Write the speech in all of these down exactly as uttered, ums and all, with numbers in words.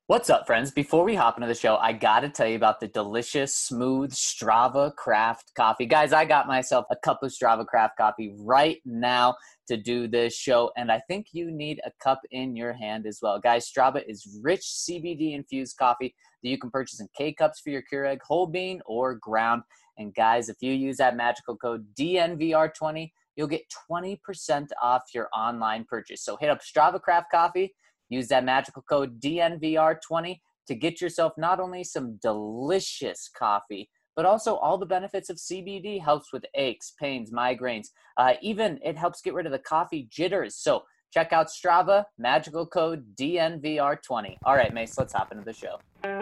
What's up, friends? Before we hop into the show, I got to tell you about the delicious, smooth Strava Craft coffee. Guys, I got myself a cup of Strava Craft coffee right now to do this show, and I think you need a cup in your hand as well. Guys, Strava is rich C B D-infused coffee that you can purchase in K-Cups for your Keurig, whole bean, or ground. And guys, if you use that magical code D N V R twenty, you'll get twenty percent off your online purchase. So hit up Strava Craft Coffee. Use that magical code D N V R twenty to get yourself not only some delicious coffee, but also all the benefits of C B D. Helps with aches, pains, migraines. Uh, even it helps get rid of the coffee jitters. So check out Strava, magical code D N V R twenty. All right, Mace, let's hop into the show.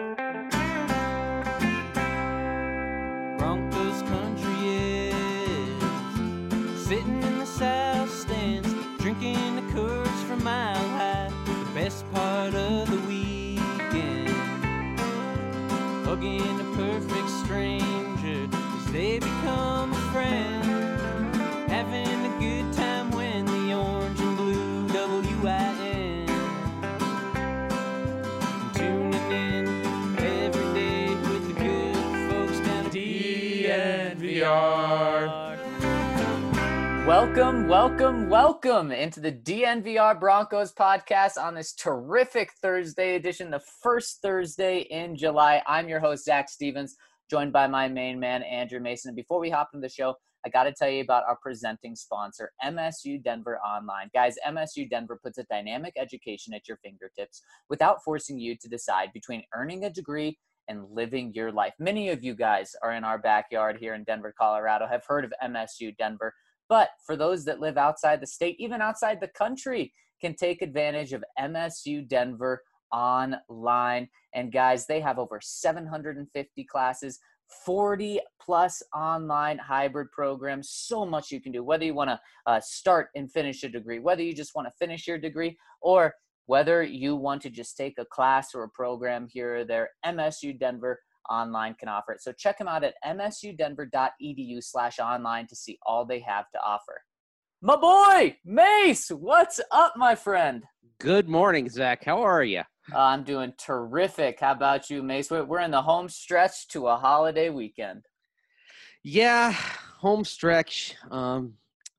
Broncos country is sitting in the south stands, drinking the Coors from Mile High. Best part of the weekend, hugging a perfect stranger as they become a friend, having a good time when the orange and blue W I N, tuning in every day with the good folks down at D N V R. Welcome, welcome, welcome into the D N V R Broncos podcast on this terrific Thursday edition, the first Thursday in July. I'm your host, Zach Stevens, joined by my main man, Andrew Mason. And before we hop into the show, I got to tell you about our presenting sponsor, M S U Denver Online. Guys, M S U Denver puts a dynamic education at your fingertips without forcing you to decide between earning a degree and living your life. Many of you guys are in our backyard here in Denver, Colorado, have heard of M S U Denver. But for those that live outside the state, even outside the country, can take advantage of M S U Denver Online. And guys, they have over seven hundred fifty classes, forty plus online hybrid programs, so much you can do, whether you want to uh, start and finish a degree, whether you just want to finish your degree, or whether you want to just take a class or a program here or there. M S U Denver Online can offer it. So check them out at msudenver.edu slash online to see all they have to offer. My boy, Mace, what's up, my friend? Good morning, Zach. How are you? Uh, I'm doing terrific. How about you, Mace? We're in the home stretch to a holiday weekend. Yeah, home stretch. Um,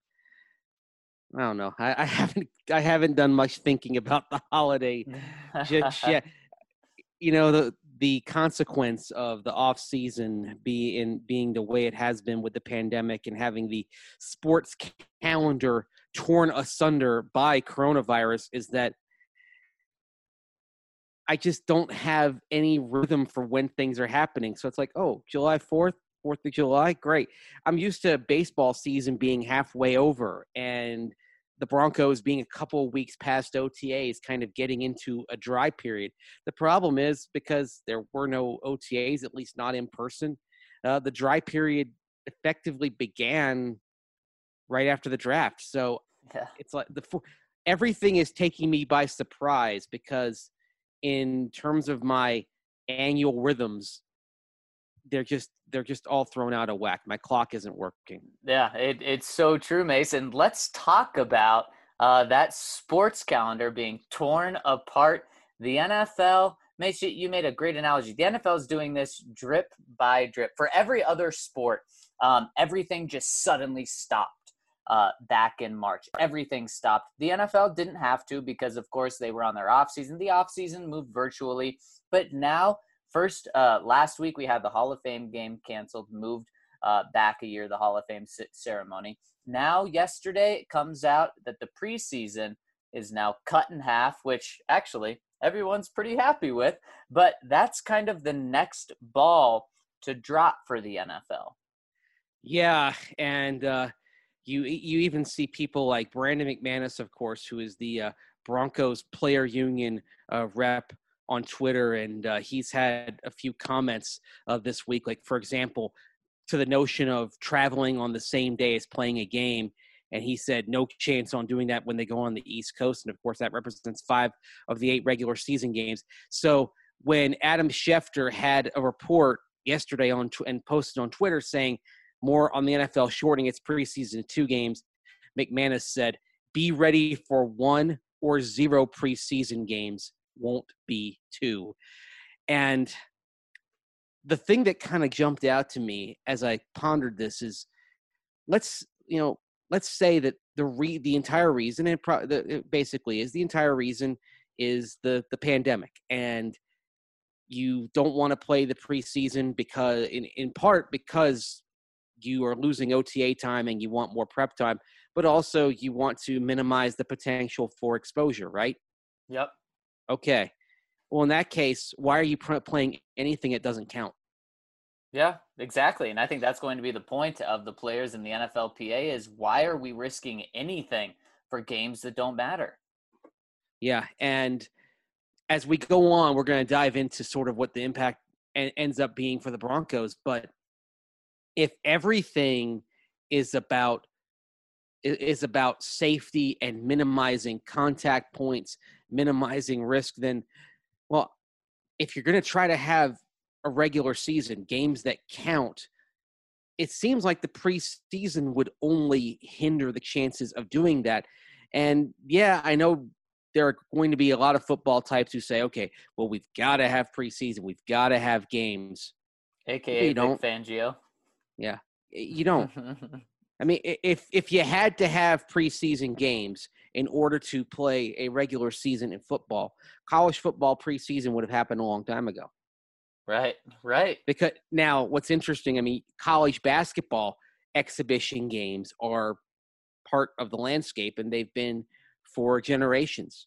I don't know. I, I haven't. I haven't done much thinking about the holiday just yet. You know, the the consequence of the off season being being the way it has been with the pandemic and having the sports calendar torn asunder by coronavirus is that I just don't have any rhythm for when things are happening. So it's like, oh, July fourth, fourth of July, great. I'm used to baseball season being halfway over and the Broncos being a couple of weeks past O T As, kind of getting into a dry period. The problem is because there were no O T As, at least not in person, uh, the dry period effectively began right after the draft. So Yeah. it's like the everything is taking me by surprise because in terms of my annual rhythms, they're just they're just all thrown out of whack. My clock isn't working. Yeah, it, it's so true, Mason. Let's talk about uh, that sports calendar being torn apart. The N F L, Mace, you made a great analogy. The N F L is doing this drip by drip. For every other sport, um, everything just suddenly stopped uh, back in March. Everything stopped. The N F L didn't have to because, of course, they were on their offseason. The offseason moved virtually. But now, First, uh, last week we had the Hall of Fame game canceled, moved uh, back a year, the Hall of Fame c- ceremony. Now, yesterday, it comes out that the preseason is now cut in half, which actually everyone's pretty happy with. But that's kind of the next ball to drop for the N F L. Yeah, and uh, you you even see people like Brandon McManus, of course, who is the uh, Broncos player union uh, rep on Twitter, and uh, he's had a few comments uh, this week, like, for example, to the notion of traveling on the same day as playing a game, and he said no chance on doing that when they go on the East Coast, and of course that represents five of the eight regular season games. So when Adam Schefter had a report yesterday on and posted on Twitter saying more on the N F L shorting its preseason to two games, McManus said, be ready for one or zero preseason games won't be too. And the thing that kind of jumped out to me as I pondered this is, let's, you know, let's say that the re- the entire reason, and pro- the, it basically is the entire reason is the the pandemic, and you don't want to play the preseason because, in, in part, because you are losing O T A time and you want more prep time, but also you want to minimize the potential for exposure, right? Yep. Okay. Well, in that case, why are you pr- playing anything that doesn't count? Yeah, exactly. And I think that's going to be the point of the players in the N F L P A is, why are we risking anything for games that don't matter? Yeah. And as we go on, we're going to dive into sort of what the impact en- ends up being for the Broncos. But if everything is about is about safety and minimizing contact points, minimizing risk, then, well, if you're going to try to have a regular season, games that count, it seems like the preseason would only hinder the chances of doing that. And yeah, I know there are going to be a lot of football types who say, okay, well, we've got to have preseason. We've got to have games. A K A you Vic don't. Fangio. Yeah, you don't. I mean, if if you had to have preseason games in order to play a regular season in football, college football preseason would have happened a long time ago. Right, right. Because now what's interesting, I mean, college basketball exhibition games are part of the landscape, and they've been for generations.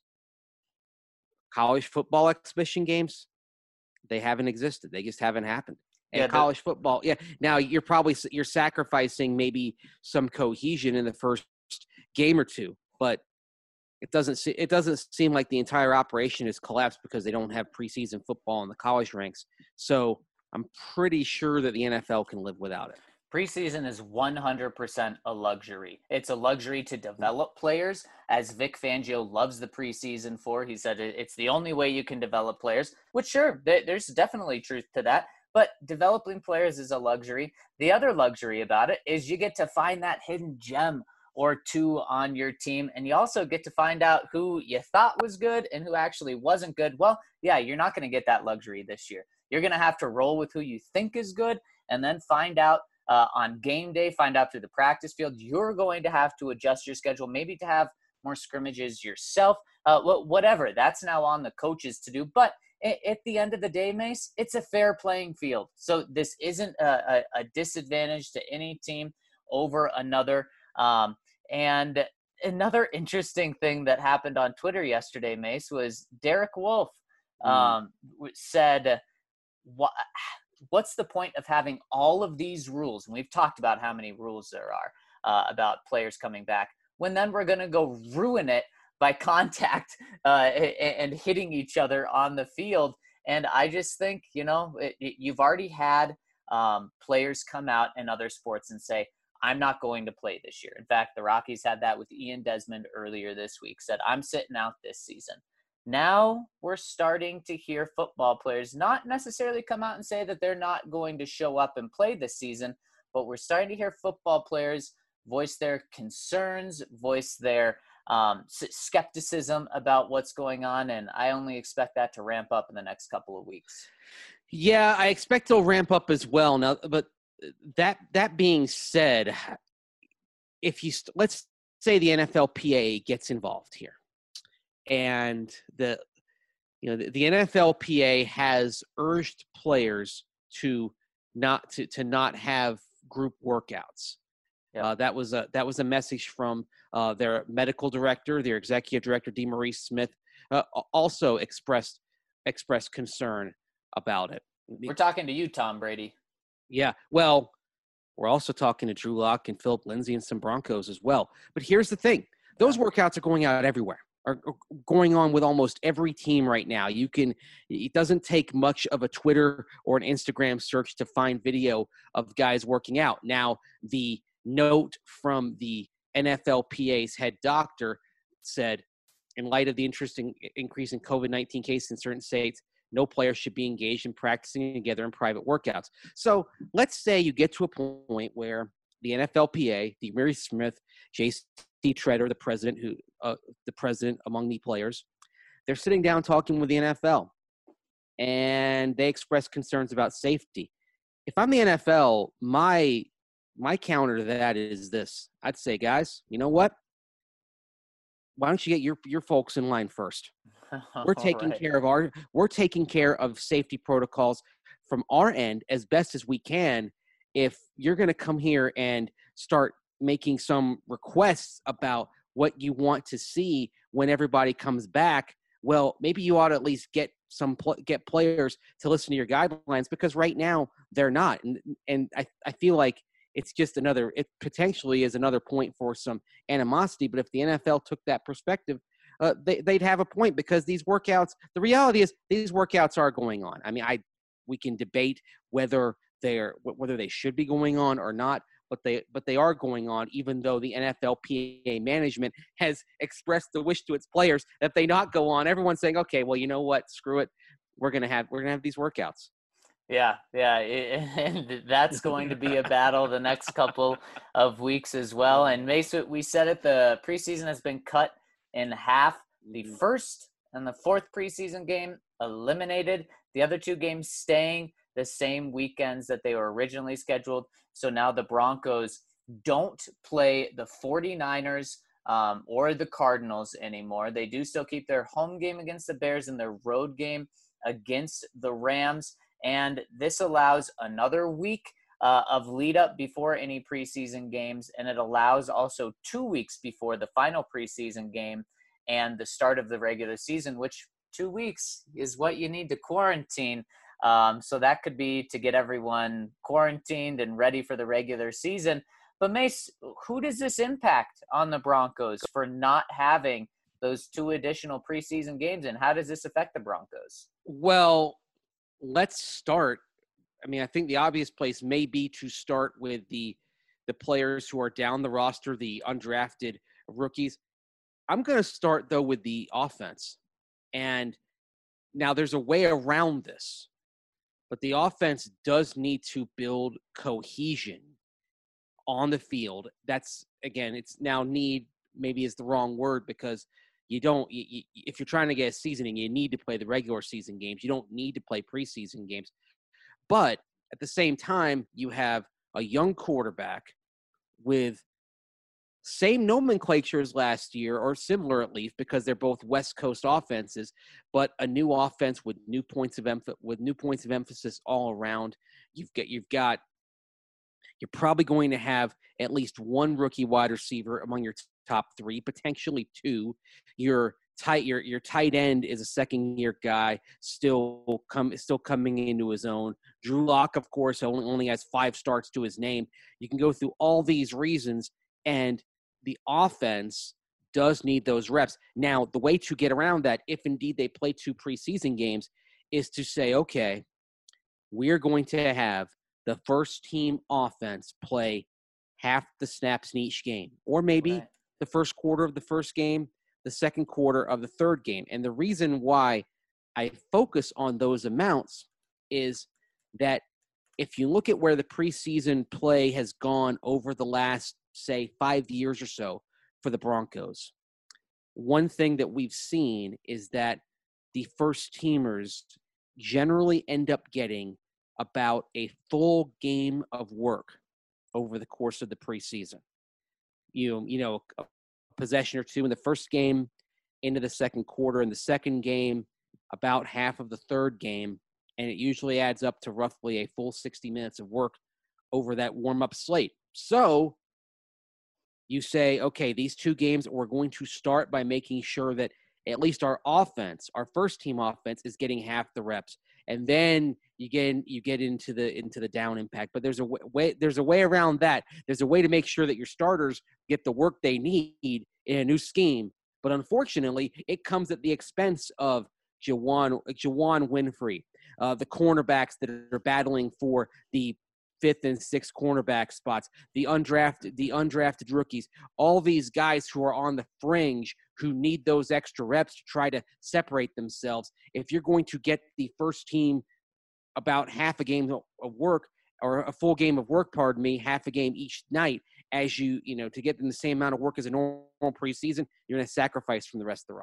College football exhibition games, they haven't existed. They just haven't happened. And Yeah, college football, yeah. Now you're probably you're sacrificing maybe some cohesion in the first game or two, but it doesn't se- it doesn't seem like the entire operation is collapsed because they don't have preseason football in the college ranks. So I'm pretty sure that the N F L can live without it. Preseason is one hundred percent a luxury. It's a luxury to develop players, as Vic Fangio loves the preseason for. He said it's the only way you can develop players, which sure, there's definitely truth to that. But developing players is a luxury. The other luxury about it is you get to find that hidden gem or two on your team, and you also get to find out who you thought was good and who actually wasn't good. Well, yeah, you're not going to get that luxury this year. You're going to have to roll with who you think is good and then find out uh, on game day, find out through the practice field. You're going to have to adjust your schedule, maybe to have more scrimmages yourself, uh, whatever. That's now on the coaches to do. But at the end of the day, Mace, it's a fair playing field. So this isn't a, a, a disadvantage to any team over another. Um, and another interesting thing that happened on Twitter yesterday, Mace, was Derek Wolfe um, mm. said, what, what's the point of having all of these rules? And we've talked about how many rules there are uh, about players coming back, when then we're going to go ruin it by contact uh, and hitting each other on the field. And I just think, you know, it, it, you've already had um, players come out in other sports and say, I'm not going to play this year. In fact, the Rockies had that with Ian Desmond earlier this week, said, I'm sitting out this season. Now we're starting to hear football players not necessarily come out and say that they're not going to show up and play this season, but we're starting to hear football players voice their concerns, voice their um, skepticism about what's going on. And I only expect that to ramp up in the next couple of weeks. Yeah, I expect it'll ramp up as well. Now, but that, that being said, if you, st- let's say the N F L P A gets involved here, and the, you know, the, the N F L P A has urged players to not, to, to not have group workouts. Yep. Uh, that was a that was a message from uh, their medical director, their executive director, DeMaurice Smith, uh, also expressed expressed concern about it. We're talking to you, Tom Brady. Yeah, well, we're also talking to Drew Lock and Philip Lindsay and some Broncos as well. But here's the thing: those yeah. workouts are going out everywhere. Are going on with almost every team right now. You can. It doesn't take much of a Twitter or an Instagram search to find video of guys working out. Now the note from the N F L P A's head doctor said, in light of the interesting increase in COVID nineteen cases in certain states, no player should be engaged in practicing together in private workouts. So let's say you get to a point where the N F L P A, DeMaurice Smith, J C Treader, the president, who uh, the president among the players, they're sitting down talking with the N F L, and they express concerns about safety. If I'm the N F L, my my counter to that is this. I'd say, guys, you know what? Why don't you get your your folks in line first? We're taking right. care of our we're taking care of safety protocols from our end as best as we can. If you're going to come here and start making some requests about what you want to see when everybody comes back, well, maybe you ought to at least get some pl- get players to listen to your guidelines, because right now they're not. And and I, I feel like it's just another, it potentially is another point for some animosity. But if the N F L took that perspective, uh, they, they'd have a point, because these workouts, the reality is these workouts are going on. I mean, I we can debate whether they're whether they should be going on or not, but they but they are going on, even though the N F L P A management has expressed the wish to its players that they not go on. Everyone's saying, okay, well, you know what, screw it, we're gonna have we're gonna have these workouts. Yeah, yeah, and that's going to be a battle the next couple of weeks as well. And Mace, we said it, the preseason has been cut in half. The first and the fourth preseason game eliminated. The other two games staying the same weekends that they were originally scheduled. So now the Broncos don't play the 49ers um, or the Cardinals anymore. They do still keep their home game against the Bears and their road game against the Rams. And this allows another week uh, of lead up before any preseason games. And it allows also two weeks before the final preseason game and the start of the regular season, which two weeks is what you need to quarantine. Um, so that could be to get everyone quarantined and ready for the regular season. But Mace, who does this impact on the Broncos for not having those two additional preseason games? And how does this affect the Broncos? Well, let's start. I mean, I think the obvious place may be to start with the the players who are down the roster, the undrafted rookies. I'm going to start, though, with the offense. And now there's a way around this, but the offense does need to build cohesion on the field. That's, again, it's now need maybe is the wrong word, because you don't, you, you, if you're trying to get a seasoning, you need to play the regular season games. You don't need to play preseason games. But at the same time, you have a young quarterback with same nomenclature as last year, or similar at least, because they're both West Coast offenses, but a new offense with new points of emph- with new points of emphasis all around. You've got you've got you're probably going to have at least one rookie wide receiver among your t- top three, potentially two. Your tight your your tight end is a second year guy, still come still coming into his own. Drew Lock, of course, only only has five starts to his name. You can go through all these reasons, and the offense does need those reps. Now, the way to get around that, if indeed they play two preseason games, is to say, okay, we're going to have the first team offense play half the snaps in each game, or maybe Right. the first quarter of the first game, the second quarter of the third game. And the reason why I focus on those amounts is that if you look at where the preseason play has gone over the last, say, five years or so for the Broncos, one thing that we've seen is that the first teamers generally end up getting about a full game of work over the course of the preseason. You, you know, a possession or two in the first game, into the second quarter, in the second game, about half of the third game, and it usually adds up to roughly a full sixty minutes of work over that warm-up slate. So you say, okay, these two games, we're going to start by making sure that at least our offense, our first-team offense, is getting half the reps, and then you get in, you get into the into the down impact. But there's a way there's a way around that. There's a way to make sure that your starters get the work they need in a new scheme. But unfortunately, it comes at the expense of Juwan, Juwan Winfrey, uh, the cornerbacks that are battling for the fifth and sixth cornerback spots, the undrafted, the undrafted rookies, all these guys who are on the fringe who need those extra reps to try to separate themselves. If you're going to get the first team about half a game of work, or a full game of work, pardon me, half a game each night, as you, you know, to get them the same amount of work as a normal preseason, you're going to sacrifice from the rest of the roster.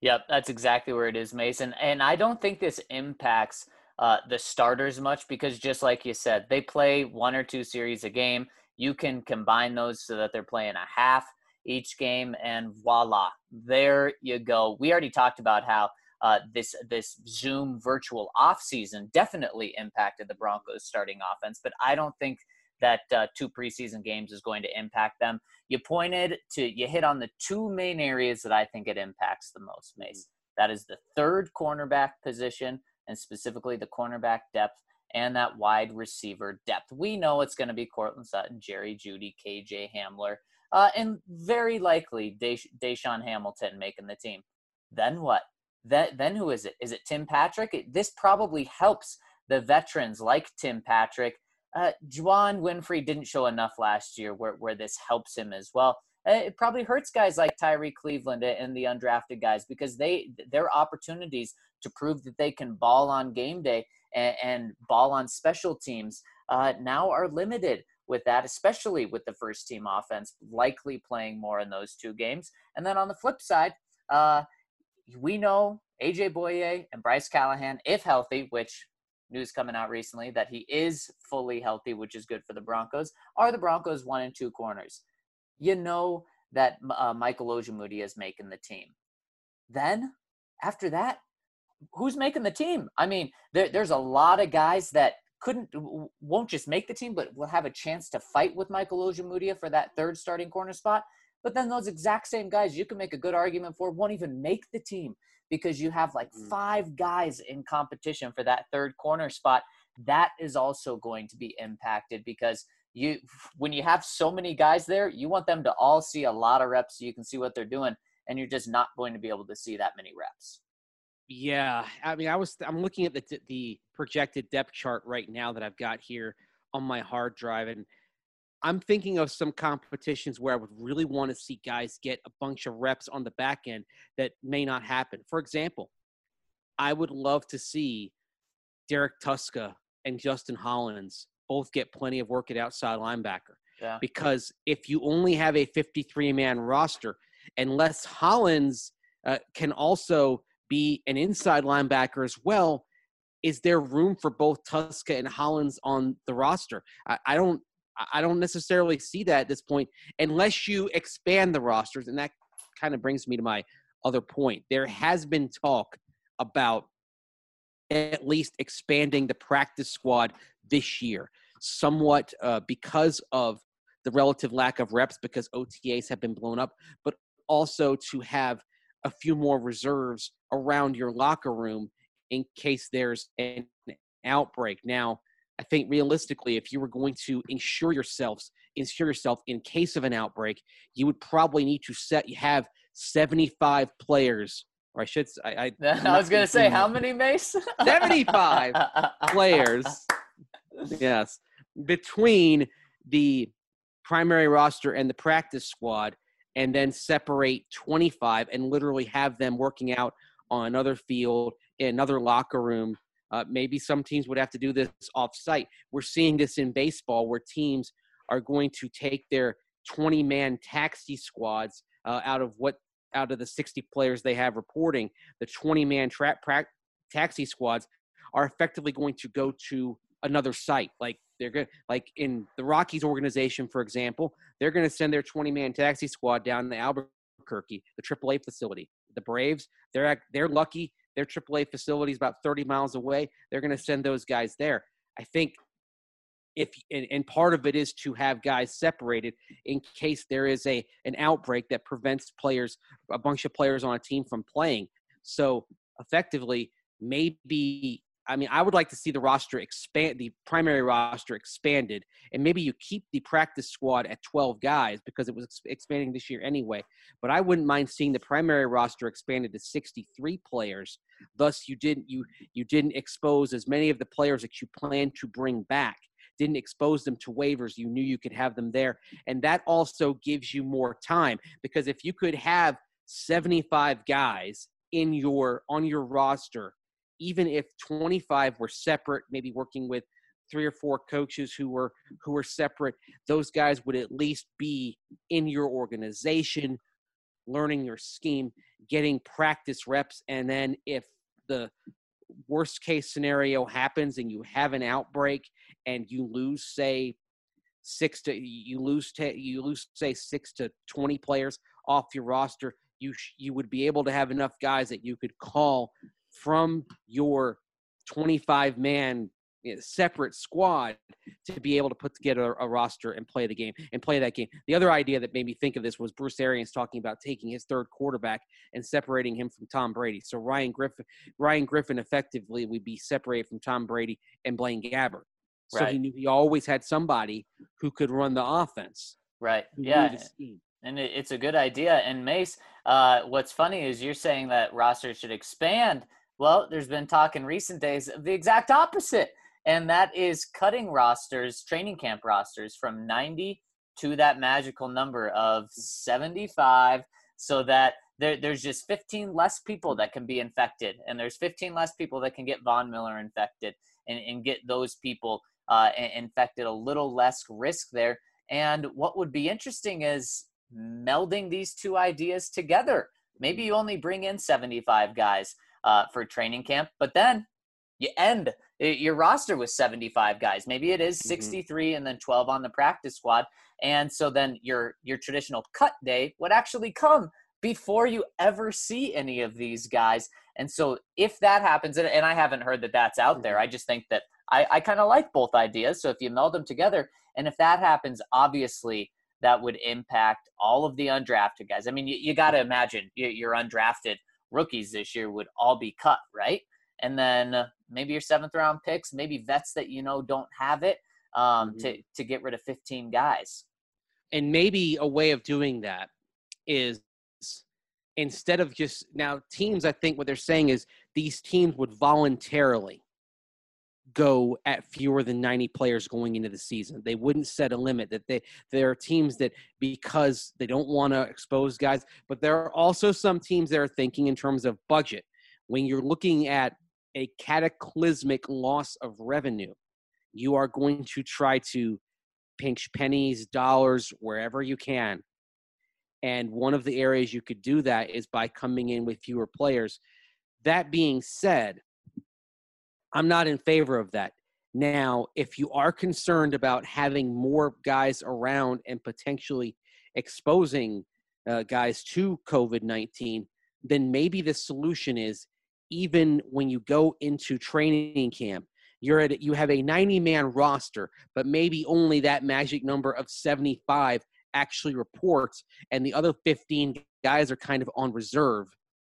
Yep, that's exactly where it is, Mason. And I don't think this impacts uh, the starters much because, just like you said, they play one or two series a game. You can combine those so that they're playing a half each game, and voila, there you go. We already talked about how uh, this this Zoom virtual offseason definitely impacted the Broncos' starting offense, but I don't think that uh, two preseason games is going to impact them. You pointed to, you hit on the two main areas that I think it impacts the most, Mace. That is the third cornerback position, and specifically the cornerback depth and that wide receiver depth. We know it's going to be Courtland Sutton, Jerry Jeudy, K J Hamler, uh, and very likely Desha- Deshaun Hamilton making the team. Then what? That, then who is it? Is it Tim Patrick? It, this probably helps the veterans like Tim Patrick. Uh, Juwan Winfrey didn't show enough last year where, where this helps him as well. Uh, it probably hurts guys like Tyree Cleveland and the undrafted guys because they their opportunities to prove that they can ball on game day and, and ball on special teams uh, now are limited with that, especially with the first team offense likely playing more in those two games. And then on the flip side, uh, we know A J Boye and Bryce Callahan, if healthy, which news coming out recently that he is fully healthy, which is good for the Broncos, are the Broncos one and two corners. You know that uh, Michael Ojemudia is making the team. Then, after that, who's making the team? I mean, there, there's a lot of guys that couldn't, won't just make the team, but will have a chance to fight with Michael Ojemudia for that third starting corner spot. But then those exact same guys you can make a good argument for won't even make the team, because you have like five guys in competition for that third corner spot. That is also going to be impacted because you, when you have so many guys there, you want them to all see a lot of reps so you can see what they're doing, and you're just not going to be able to see that many reps. Yeah, I mean, I was I'm looking at the the projected depth chart right now that I've got here on my hard drive, and I'm thinking of some competitions where I would really want to see guys get a bunch of reps on the back end that may not happen. For example, I would love to see Derek Tuska and Justin Hollins both get plenty of work at outside linebacker. Yeah. Because if you only have a fifty-three man roster, unless Hollins uh, can also be an inside linebacker as well, is there room for both Tuska and Hollins on the roster? I, I don't I don't necessarily see that at this point unless you expand the rosters. And that kind of brings me to my other point. There has been talk about at least expanding the practice squad this year, somewhat uh, because of the relative lack of reps, because O T As have been blown up, but also to have a few more reserves around your locker room in case there's an outbreak. Now, I think realistically, if you were going to ensure yourselves, ensure yourself in case of an outbreak, you would probably need to set have seventy-five players, or I should. I, I, I was going to say, how many, Mace? seventy-five players. Yes, between the primary roster and the practice squad, and then separate twenty-five and literally have them working out on another field, in another locker room. Uh, maybe some teams would have to do this off-site. We're seeing this in baseball where teams are going to take their twenty man taxi squads uh, out of what out of the sixty players they have reporting. The twenty man tra- pra- taxi squads are effectively going to go to another site. Like they're going, like in the Rockies organization, for example, they're going to send their twenty man taxi squad down to Albuquerque, the triple A facility. The Braves, they're they're lucky. Their triple A facility is about thirty miles away. They're going to send those guys there. I think if and, and part of it is to have guys separated in case there is a an outbreak that prevents players, a bunch of players on a team from playing. So effectively, maybe, I mean, I would like to see the roster expand, the primary roster expanded, and maybe you keep the practice squad at twelve guys because it was ex- expanding this year anyway. But I wouldn't mind seeing the primary roster expanded to sixty-three players. Thus, you didn't you you didn't expose as many of the players that you planned to bring back. Didn't expose them to waivers. You knew you could have them there, and that also gives you more time, because if you could have seventy-five guys in your on your roster, even if twenty-five were separate, maybe working with three or four coaches who were who were separate, those guys would at least be in your organization, learning your scheme, getting practice reps. And then if the worst case scenario happens and you have an outbreak and you lose, say, six to you lose to, you lose say six to twenty players off your roster, you sh- you would be able to have enough guys that you could call from your twenty-five man you know, separate squad to be able to put together a roster and play the game and play that game. The other idea that made me think of this was Bruce Arians talking about taking his third quarterback and separating him from Tom Brady. So Ryan Griffin, Ryan Griffin effectively would be separated from Tom Brady and Blaine Gabbert. So Right. he knew he always had somebody who could run the offense. Right. Who Yeah. knew the scheme. And it, it's a good idea. And Mace, uh, what's funny is you're saying that rosters should expand. Well, there's been talk in recent days of the exact opposite. And that is cutting rosters, training camp rosters, from ninety to that magical number of seventy-five, so that there, there's just fifteen less people that can be infected. And there's fifteen less people that can get Von Miller infected and, and get those people uh, infected, a little less risk there. And what would be interesting is melding these two ideas together. Maybe you only bring in seventy-five guys uh, for training camp, but then you end your roster with seventy-five guys. Maybe it is sixty-three mm-hmm. and then twelve on the practice squad. And so then your your traditional cut day would actually come before you ever see any of these guys. And so if that happens, and, and I haven't heard that that's out there, I just think that I, I kind of like both ideas. So if you meld them together, and if that happens, obviously that would impact all of the undrafted guys. I mean, you, you got to imagine your, your undrafted rookies this year would all be cut, right? And then uh, maybe your seventh round picks, maybe vets that you know don't have it, um, mm-hmm. to to get rid of fifteen guys. And maybe a way of doing that is instead of just now teams, I think what they're saying is these teams would voluntarily go at fewer than ninety players going into the season. They wouldn't set a limit. That they there are teams that, because they don't want to expose guys, but there are also some teams that are thinking in terms of budget. When you're looking at a cataclysmic loss of revenue, you are going to try to pinch pennies, dollars, wherever you can. And one of the areas you could do that is by coming in with fewer players. That being said, I'm not in favor of that. Now, if you are concerned about having more guys around and potentially exposing uh, guys to COVID nineteen, then maybe the solution is even when you go into training camp, you're at you have a ninety man roster, but maybe only that magic number of seventy-five actually reports, and the other fifteen guys are kind of on reserve,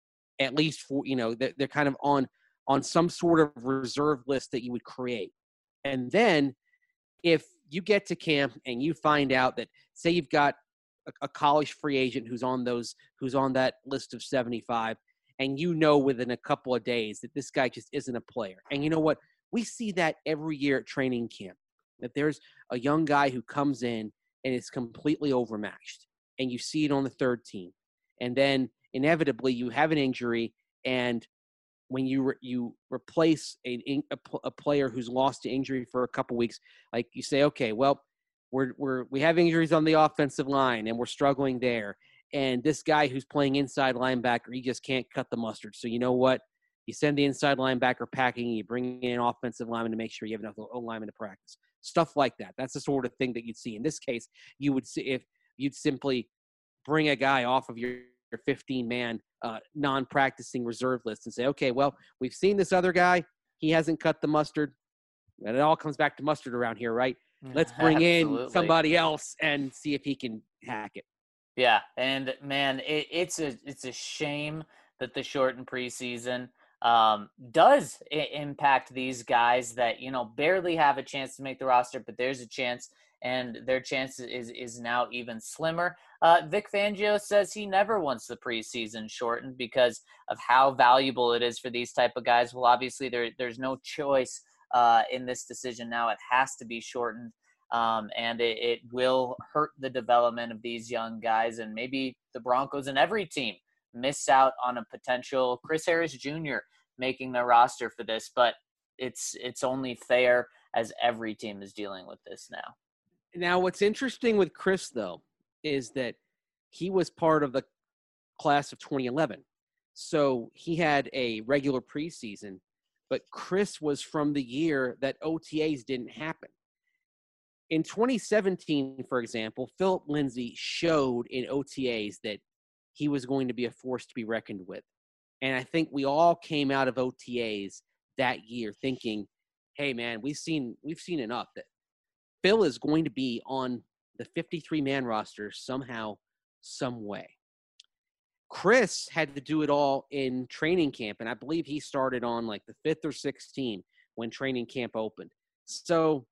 at least for, you know, they're, they're kind of on on some sort of reserve list that you would create. And then if you get to camp and you find out that, say you've got a, a college free agent who's on those, who's on that list of seventy-five, and you know within a couple of days that this guy just isn't a player. And you know what? We see that every year at training camp, that there's a young guy who comes in and is completely overmatched. And you see it on the third team. And then inevitably you have an injury, and when you re- you replace a, a, a player who's lost to injury for a couple weeks, like you say, okay, well, we're we're we have injuries on the offensive line and we're struggling there. And this guy who's playing inside linebacker, he just can't cut the mustard. So you know what? You send the inside linebacker packing, you bring in an offensive lineman to make sure you have enough O-linemen to practice. Stuff like that. That's the sort of thing that you'd see. In this case, you would see if you'd simply bring a guy off of your fifteen man uh, non-practicing reserve list and say, okay, well, we've seen this other guy. He hasn't cut the mustard. And it all comes back to mustard around here, right? Let's bring in somebody else and see if he can hack it. Yeah, and man, it, it's a it's a shame that the shortened preseason um, does I- impact these guys that, you know, barely have a chance to make the roster, but there's a chance, and their chance is is now even slimmer. Uh, Vic Fangio says he never wants the preseason shortened because of how valuable it is for these type of guys. Well, obviously there there's no choice uh, in this decision now. It has to be shortened. Um, and it, it will hurt the development of these young guys, and maybe the Broncos and every team miss out on a potential Chris Harris Junior making their roster for this, but it's it's only fair as every team is dealing with this now. Now, what's interesting with Chris, though, is that he was part of the class of twenty eleven. So he had a regular preseason, but Chris was from the year that O T As didn't happen. In twenty seventeen, for example, Philip Lindsay showed in O T As that he was going to be a force to be reckoned with. And I think we all came out of O T As that year thinking, hey, man, we've seen we've seen enough. That Phil is going to be on the fifty-three man roster somehow, some way. Chris had to do it all in training camp, and I believe he started on like the fifth or sixth team when training camp opened. So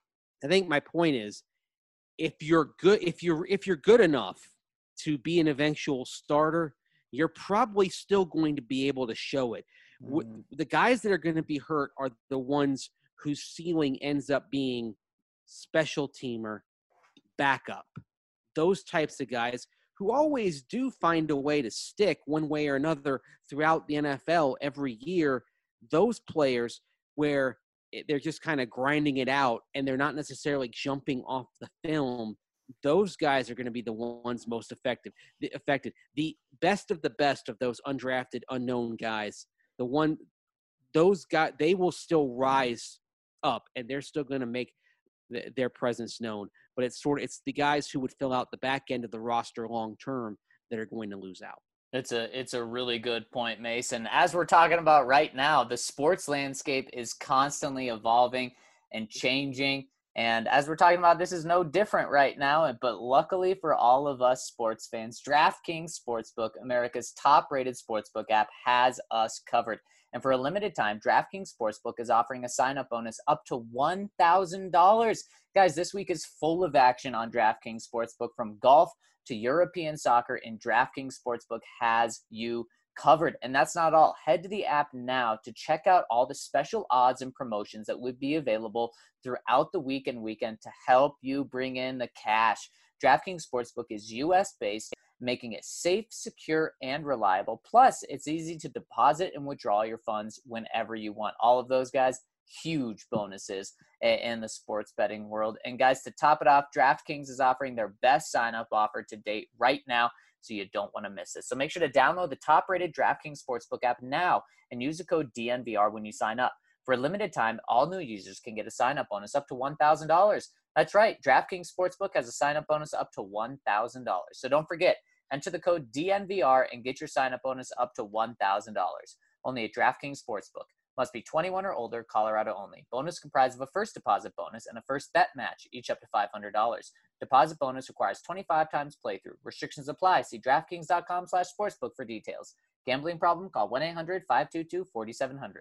I think my point is, if you're good, if you're if you're good enough to be an eventual starter, you're probably still going to be able to show it. Mm. The guys that are going to be hurt are the ones whose ceiling ends up being special teamer, backup. Those types of guys who always do find a way to stick one way or another throughout the N F L every year. Those players where they're just kind of grinding it out and they're not necessarily jumping off the film, those guys are going to be the ones most effective, affected. The best of the best of those undrafted, unknown guys, the one, those guys, they will still rise up and they're still going to make th- their presence known. But it's sort of, it's the guys who would fill out the back end of the roster long-term that are going to lose out. It's a it's a really good point, Mason. As we're talking about right now, the sports landscape is constantly evolving and changing. And as we're talking about, this is no different right now. But luckily for all of us sports fans, DraftKings Sportsbook, America's top-rated sportsbook app, has us covered. And for a limited time, DraftKings Sportsbook is offering a sign-up bonus up to one thousand dollars. Guys, this week is full of action on DraftKings Sportsbook, from golf to European soccer, and DraftKings Sportsbook has you covered. And that's not all. Head to the app now to check out all the special odds and promotions that would be available throughout the week and weekend to help you bring in the cash. DraftKings Sportsbook is U S-based, making it safe, secure, and reliable. Plus, it's easy to deposit and withdraw your funds whenever you want. All of those, guys, huge bonuses in the sports betting world. And guys, to top it off, DraftKings is offering their best sign-up offer to date right now, so you don't want to miss it. So make sure to download the top-rated DraftKings Sportsbook app now and use the code D N V R when you sign up. For a limited time, all new users can get a sign-up bonus up to one thousand dollars. That's right, DraftKings Sportsbook has a sign-up bonus up to one thousand dollars. So don't forget, enter the code D N V R and get your sign-up bonus up to one thousand dollars. Only at DraftKings Sportsbook. Must be twenty-one or older, Colorado only. Bonus comprised of a first deposit bonus and a first bet match, each up to five hundred dollars. Deposit bonus requires twenty-five times playthrough. Restrictions apply. See DraftKings.com slash sportsbook for details. Gambling problem? Call one eight hundred five two two four seven zero zero.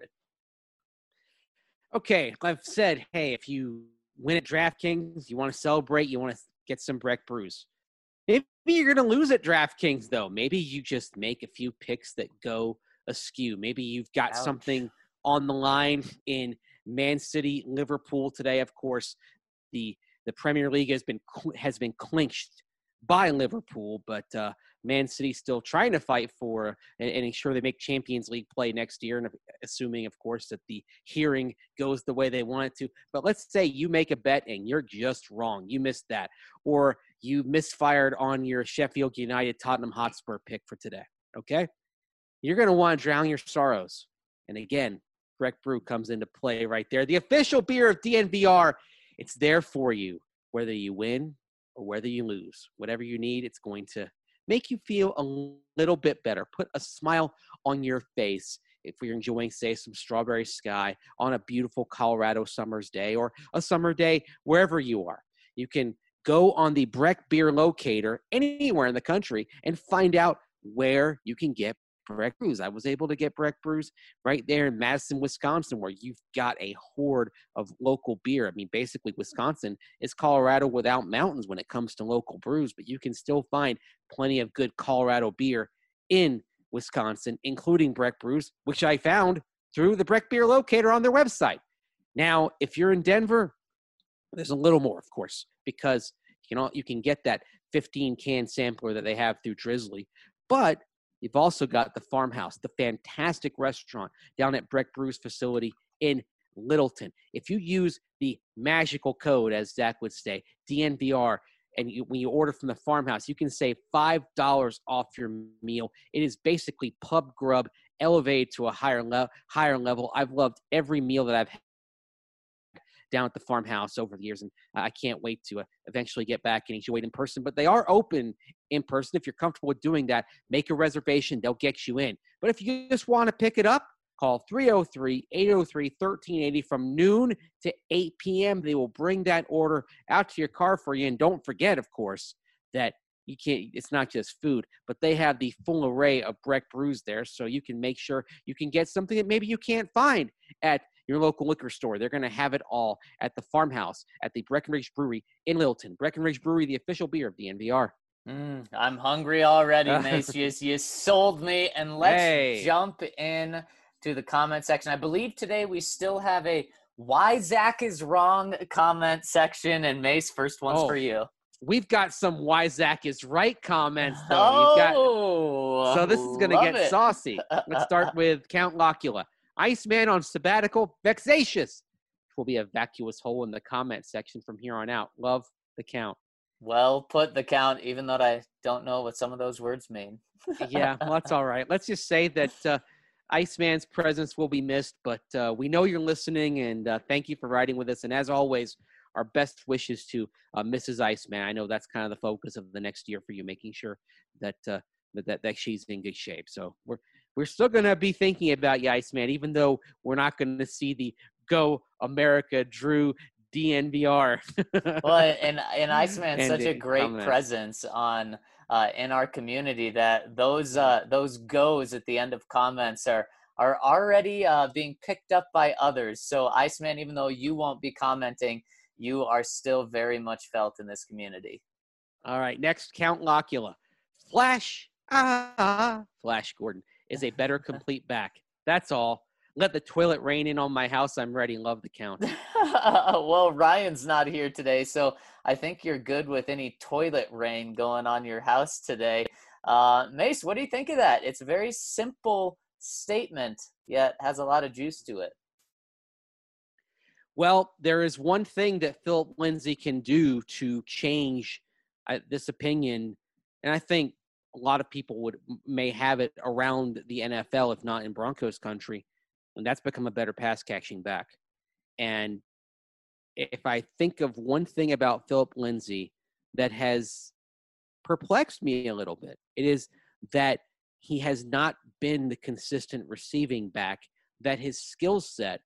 Okay, I've said, hey, if you win at DraftKings, you want to celebrate, you want to get some Breck Brews. Maybe you're going to lose at DraftKings, though. Maybe you just make a few picks that go askew. Maybe you've got Ouch. something on the line in Man City, Liverpool today. Of course, the the Premier League has been has been clinched by Liverpool, but uh, Man City still trying to fight for and, and ensure they make Champions League play next year, and assuming, of course, that the hearing goes the way they want it to. But let's say you make a bet and you're just wrong. You missed that, or you misfired on your Sheffield United Tottenham Hotspur pick for today. Okay, you're going to want to drown your sorrows, and again, Breck Brew comes into play right there. The official beer of D N V R. It's there for you, whether you win or whether you lose. Whatever you need, it's going to make you feel a little bit better. Put a smile on your face if you're enjoying, say, some strawberry sky on a beautiful Colorado summer's day, or a summer day wherever you are. You can go on the Breck Beer Locator anywhere in the country and find out where you can get Breck Brews. I was able to get Breck Brews right there in Madison, Wisconsin, where you've got a horde of local beer. I mean, basically, Wisconsin is Colorado without mountains when it comes to local brews, but you can still find plenty of good Colorado beer in Wisconsin, including Breck Brews, which I found through the Breck Beer Locator on their website. Now, if you're in Denver, there's a little more, of course, because you know you can get that fifteen can sampler that they have through Drizzly, but you've also got the Farmhouse, the fantastic restaurant down at Breck Brew's facility in Littleton. If you use the magical code, as Zach would say, D N V R, and you, when you order from the farmhouse, you can save five dollars off your meal. It is basically pub grub elevated to a higher, le- higher level. I've loved every meal that I've had down at the farmhouse over the years, and I can't wait to uh, eventually get back and enjoy it in person. But they are open in person. If you're comfortable with doing that, make a reservation. They'll get you in. But if you just want to pick it up, call three oh three, eight oh three, one three eight oh from noon to eight p.m. They will bring that order out to your car for you. And don't forget, of course, that you can't, it's not just food, but they have the full array of Breck brews there. So you can make sure you can get something that maybe you can't find at your local liquor store. They're going to have it all at the farmhouse at the Breckenridge Brewery in Littleton. Breckenridge Brewery, the official beer of the N V R. Mm, I'm hungry already, Mace. you, you sold me. And let's Hey. jump in to the comment section. I believe today we still have a Why Zach is Wrong comment section. And Mace, first one's Oh. for you. We've got some Why Zach is Right comments, though. Oh, You've got, so this is going to love get it. saucy. Let's start with Count Locula. Iceman on sabbatical, vexatious. Will be a vacuous hole in the comment section from here on out. Love the Count. Well put, the Count, even though I don't know what some of those words mean. Yeah, well, that's all right. Let's just say that uh, Iceman's presence will be missed, but uh, we know you're listening, and uh, thank you for riding with us. And as always, our best wishes to uh, Missus Iceman. I know that's kind of the focus of the next year for you, making sure that uh, that that she's in good shape. So we're we're still going to be thinking about you, Iceman, even though we're not going to see the Go America Drew D N V R. Well, and and Iceman's And such a the great comments. presence on uh, in our community that those uh, those goes at the end of comments are are already uh, being picked up by others. So Iceman, even though you won't be commenting, you are still very much felt in this community. All right, next, Count Locula. Flash, ah, Flash Gordon is a better complete back. That's all. Let the toilet rain in on my house. I'm ready. Love the Count. Well, Ryan's not here today, so I think you're good with any toilet rain going on your house today. Uh, Mace, what do you think of that? It's a very simple statement, yet has a lot of juice to it. Well, there is one thing that Philip Lindsay can do to change uh, this opinion, and I think a lot of people would may have it around the N F L, if not in Broncos country, and that's become a better pass catching back. And if I think of one thing about Philip Lindsay that has perplexed me a little bit, it is that he has not been the consistent receiving back that his skill set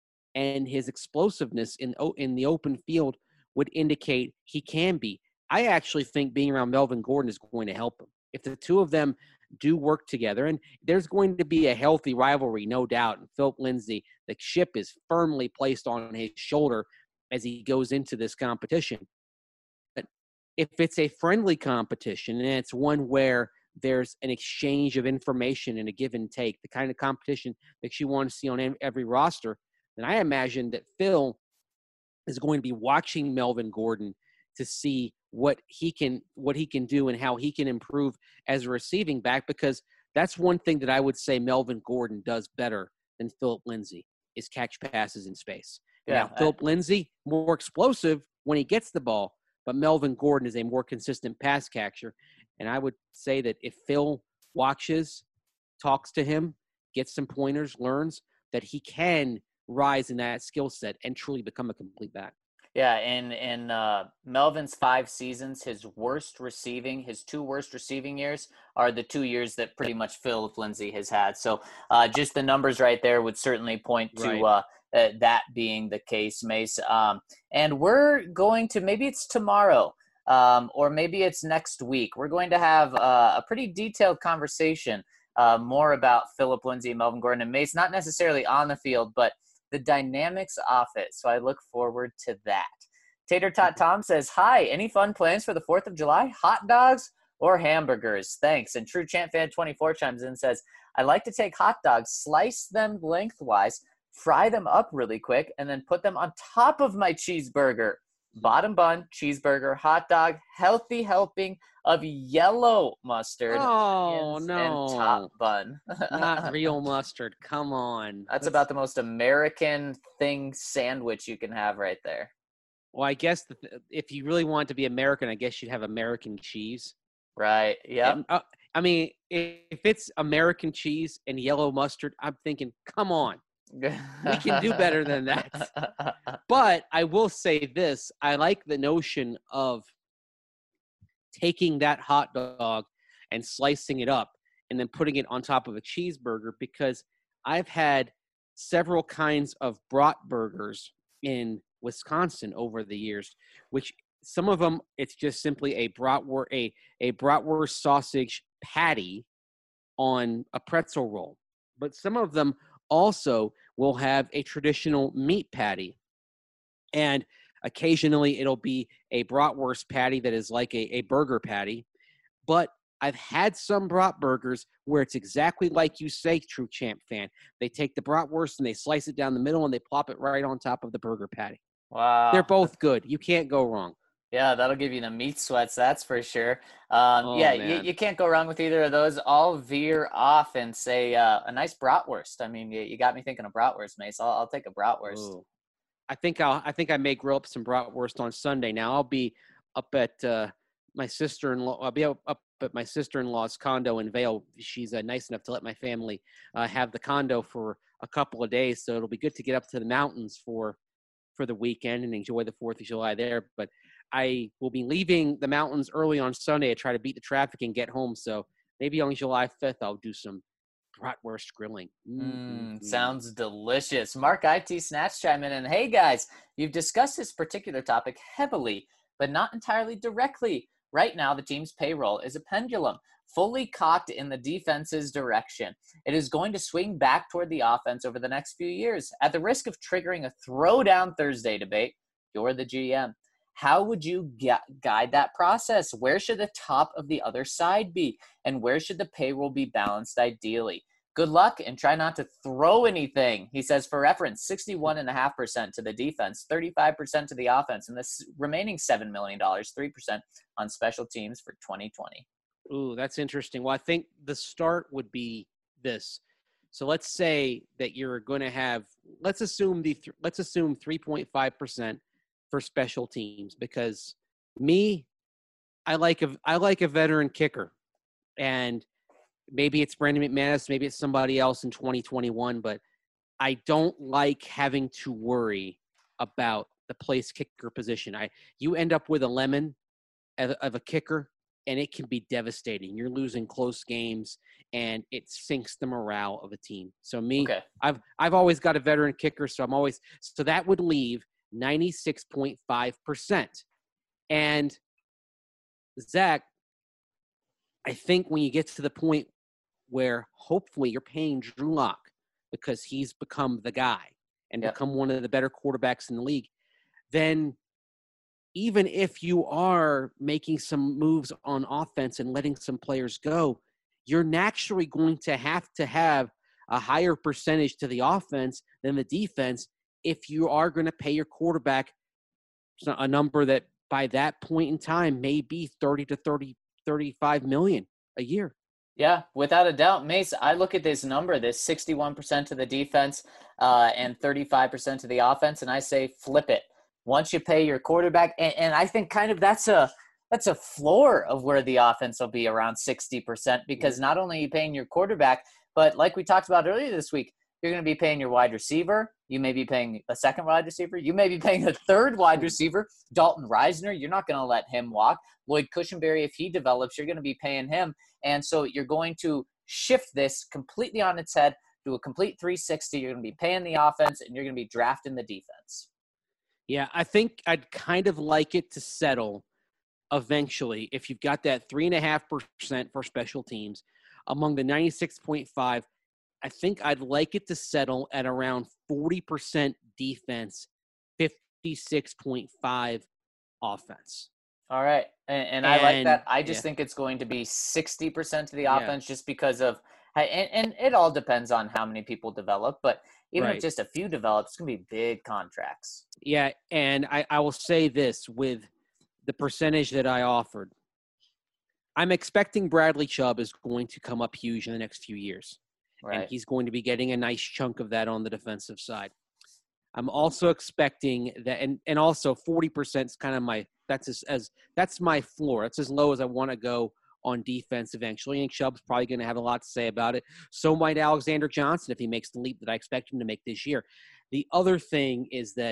and his explosiveness in in the open field would indicate he can be. I actually think being around Melvin Gordon is going to help him. If the two of them do work together, and there's going to be a healthy rivalry, no doubt, and Philip Lindsay, the ship is firmly placed on his shoulder as he goes into this competition. But if it's a friendly competition and it's one where there's an exchange of information and a give and take, the kind of competition that you want to see on every roster, then I imagine that Phil is going to be watching Melvin Gordon to see what he can what he can do and how he can improve as a receiving back, because that's one thing that I would say Melvin Gordon does better than Philip Lindsay is catch passes in space. Yeah, now, Philip Lindsay, more explosive when he gets the ball, but Melvin Gordon is a more consistent pass catcher. And I would say that if Phil watches, talks to him, gets some pointers, learns, that he can rise in that skill set and truly become a complete back. Yeah, in in uh, Melvin's five seasons, his worst receiving, his two worst receiving years are the two years that pretty much Philip Lindsay has had. So uh, just the numbers right there would certainly point to Right. uh, uh, that being the case, Mace. Um, and we're going to, maybe it's tomorrow um, or maybe it's next week, we're going to have uh, a pretty detailed conversation uh, more about Philip Lindsay and Melvin Gordon and Mace, not necessarily on the field, but the dynamics off it. So I look forward to that. Tater Tot Tom says, hi, any fun plans for the fourth of July? Hot dogs or hamburgers? Thanks. And True Champ Fan twenty-four chimes in and says, I like to take hot dogs, slice them lengthwise, fry them up really quick, and then put them on top of my cheeseburger. Bottom bun, cheeseburger, hot dog, healthy helping of yellow mustard. Oh, onions, no. And top bun. Not real mustard. Come on. That's about the most American thing sandwich you can have right there. Well, I guess the, if you really want to be American, I guess you'd have American cheese. Right. Yep. And, uh, I mean, if it's American cheese and yellow mustard, I'm thinking, come on, we can do better than that. But I will say this. I like the notion of taking that hot dog and slicing it up and then putting it on top of a cheeseburger, because I've had several kinds of bratwursts in Wisconsin over the years, which some of them, it's just simply a bratwurst, a, a bratwurst sausage patty on a pretzel roll. But some of them also will have a traditional meat patty. And occasionally it'll be a bratwurst patty that is like a, a burger patty. But I've had some bratwursts where it's exactly like you say, True Champ fan. They take the bratwurst and they slice it down the middle and they plop it right on top of the burger patty. Wow. They're both good. You can't go wrong. Yeah, that'll give you the meat sweats, that's for sure. Um, Oh, yeah, you, man. you can't go wrong with either of those. I'll veer off and say uh, a nice bratwurst. I mean, you, you got me thinking of bratwurst, Mace. I'll, I'll take a bratwurst. Ooh. I think I'll. I think I may grill up some bratwurst on Sunday. Now I'll be up at uh, my sister-in-law. I'll be up, up at my sister-in-law's condo in Vail. She's uh, nice enough to let my family uh, have the condo for a couple of days, so it'll be good to get up to the mountains for for the weekend and enjoy the Fourth of July there. But I will be leaving the mountains early on Sunday to try to beat the traffic and get home. So maybe on July fifth I'll do some bratwurst grilling. Mm, sounds delicious. Mark I T Snatch chime in and, hey guys, you've discussed this particular topic heavily, but not entirely directly. Right now, the team's payroll is a pendulum, fully cocked in the defense's direction. It is going to swing back toward the offense over the next few years. At the risk of triggering a throwdown Thursday debate, you're the G M. How would you gu- guide that process? Where should the top of the other side be? And where should the payroll be balanced ideally? Good luck and try not to throw anything. He says, for reference, sixty-one point five percent to the defense, thirty-five percent to the offense, and this remaining seven million dollars, three percent on special teams for twenty twenty. Ooh, that's interesting. Well, I think the start would be this. So let's say that you're going to have, let's assume the, th- let's assume three point five percent for special teams, because me, I like a, I like a veteran kicker, and maybe it's Brandon McManus, maybe it's somebody else in twenty twenty-one, but I don't like having to worry about the place kicker position. I, you end up with a lemon of, of a kicker, and it can be devastating. You're losing close games, and it sinks the morale of a team. So me, Okay. I've I've always got a veteran kicker, so I'm always so that would leave ninety-six point five percent. And Zach, I think when you get to the point where hopefully you're paying Drew Lock because he's become the guy and Yep. become one of the better quarterbacks in the league, then even if you are making some moves on offense and letting some players go, you're naturally going to have to have a higher percentage to the offense than the defense if you are going to pay your quarterback a number that by that point in time may be thirty to thirty, thirty-five million a year. Yeah, without a doubt. Mace, I look at this number, this sixty-one percent to the defense uh, and thirty-five percent to the offense, and I say flip it. Once you pay your quarterback, and, and I think kind of that's a that's a floor of where the offense will be, around sixty percent, because not only are you paying your quarterback, but like we talked about earlier this week, you're going to be paying your wide receiver. You may be paying a second wide receiver. You may be paying a third wide receiver. Dalton Reisner, you're not going to let him walk. Lloyd Cushenberry, if he develops, you're going to be paying him. And so you're going to shift this completely on its head, do a complete three sixty. You're going to be paying the offense, and you're going to be drafting the defense. Yeah, I think I'd kind of like it to settle eventually if you've got that three point five percent for special teams among the ninety-six point five. I think I'd like it to settle at around forty percent defense, fifty-six point five offense. All right. And, and I like And- that. I just yeah. think it's going to be sixty percent to the Yeah. offense just because of – and, and it all depends on how many people develop. But even Right. if just a few develop, it's going to be big contracts. Yeah, and I, I will say this with the percentage that I offered. I'm expecting Bradley Chubb is going to come up huge in the next few years. Right. And he's going to be getting a nice chunk of that on the defensive side. I'm also expecting that, and, and also forty percent is kind of my, that's as, as that's my floor. That's as low as I want to go on defense eventually. And Chubb's probably going to have a lot to say about it. So might Alexander Johnson if he makes the leap that I expect him to make this year. The other thing is that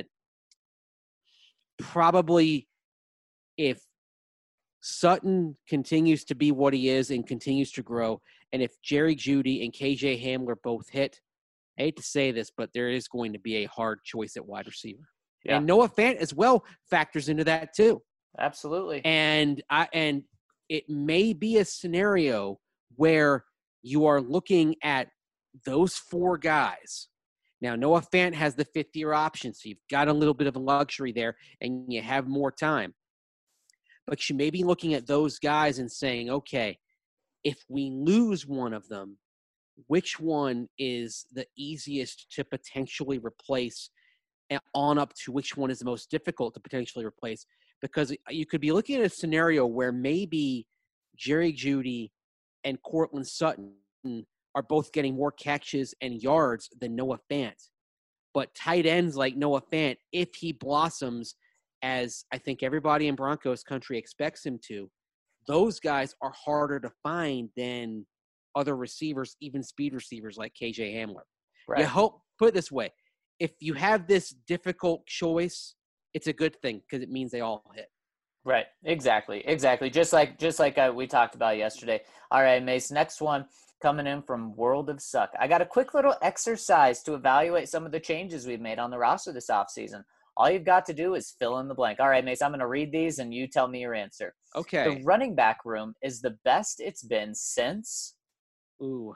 probably if Sutton continues to be what he is and continues to grow, and if Jerry Jeudy and K J Hamler both hit, I hate to say this, but there is going to be a hard choice at wide receiver. Yeah. And Noah Fant as well factors into that too. Absolutely. And I and it may be a scenario where you are looking at those four guys. Now, Noah Fant has the fifth-year option, so you've got a little bit of a luxury there, and you have more time. But you may be looking at those guys and saying, okay, if we lose one of them, which one is the easiest to potentially replace, and on up to which one is the most difficult to potentially replace? Because you could be looking at a scenario where maybe Jerry Jeudy and Courtland Sutton are both getting more catches and yards than Noah Fant. But tight ends like Noah Fant, if he blossoms, as I think everybody in Broncos country expects him to, those guys are harder to find than other receivers, even speed receivers like K J Hamler. Right. You hope, put it this way, if you have this difficult choice, it's a good thing because it means they all hit. Right. Exactly. Exactly. Just like, just like uh, we talked about yesterday. All right, Mace, next one coming in from World of Suck. I got a quick little exercise to evaluate some of the changes we've made on the roster this offseason. All you've got to do is fill in the blank. All right, Mace, I'm going to read these and you tell me your answer. Okay. The running back room is the best it's been since. Ooh.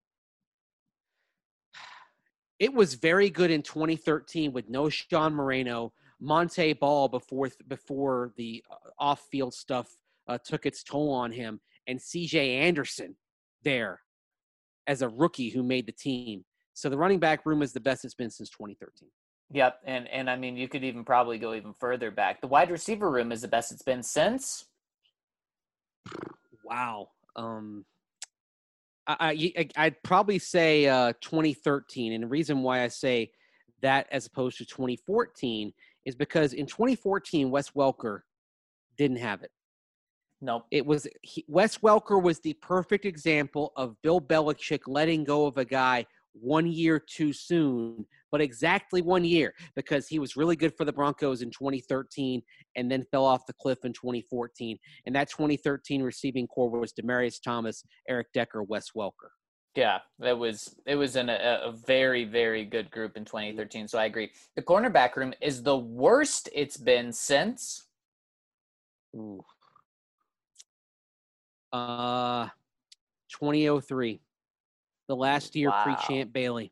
It was very good in twenty thirteen with no Sean Moreno, Monte Ball before before the off-field stuff uh, took its toll on him, and C J Anderson there as a rookie who made the team. So the running back room is the best it's been since twenty thirteen. Yep, and and I mean you could even probably go even further back. The wide receiver room is the best it's been since. Wow. Um, I, I I'd probably say uh, twenty thirteen, and the reason why I say that as opposed to twenty fourteen is because in twenty fourteen Wes Welker didn't have it. Nope. It was he, Wes Welker was the perfect example of Bill Belichick letting go of a guy one year too soon, but exactly one year, because he was really good for the Broncos in twenty thirteen and then fell off the cliff in twenty fourteen. And that twenty thirteen receiving core was Demaryius Thomas, Eric Decker, Wes Welker. Yeah, it was it was in a, a very, very good group in twenty thirteen. So I agree. The cornerback room is the worst it's been since. Ooh. Uh, twenty oh three. The last year Wow. pre-Champ Bailey.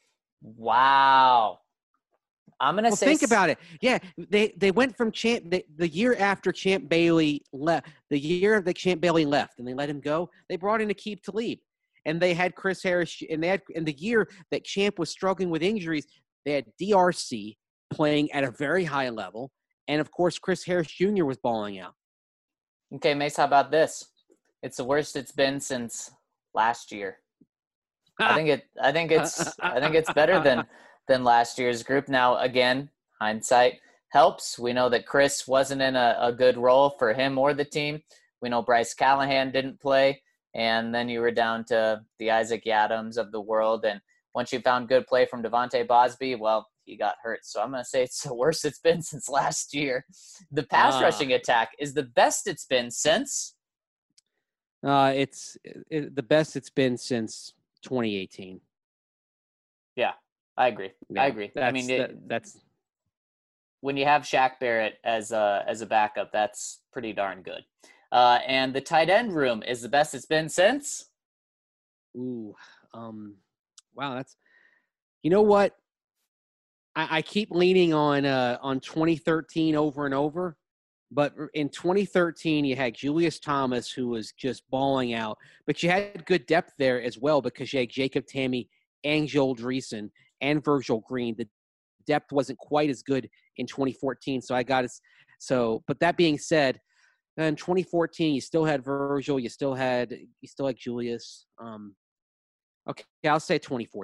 Wow. I'm going to well, say – think about it. Yeah, they, they went from Champ – the year after Champ Bailey left, the year that Champ Bailey left and they let him go, they brought in Aqib Talib. And they had Chris Harris – and they had – in the year that Champ was struggling with injuries, they had D R C playing at a very high level. And, of course, Chris Harris Junior was balling out. Okay, Mace, how about this? It's the worst it's been since last year. I think it. I think it's. I think it's better than than last year's group. Now, again, hindsight helps. We know that Chris wasn't in a, a good role for him or the team. We know Bryce Callahan didn't play, and then you were down to the Isaac Adams of the world. And once you found good play from Devontae Bosby, well, he got hurt. So I'm going to say it's the worst it's been since last year. The pass uh, rushing attack is the best it's been since. Uh, it's it, the best it's been since twenty eighteen. Yeah, I agree. Yeah, I agree. I mean, it, that, that's when you have Shaq Barrett as a as a backup, that's pretty darn good. Uh, and the tight end room is the best it's been since. Ooh, um, wow, that's you know what? I, I keep leaning on uh, on twenty thirteen over and over. But in twenty thirteen, you had Julius Thomas, who was just balling out. But you had good depth there as well because you had Jacob Tamme and Joel Dreesen and Virgil Green. The depth wasn't quite as good in twenty fourteen. So I got it. So, but that being said, in twenty fourteen, you still had Virgil. You still had you still had Julius. Um, okay, I'll say twenty fourteen.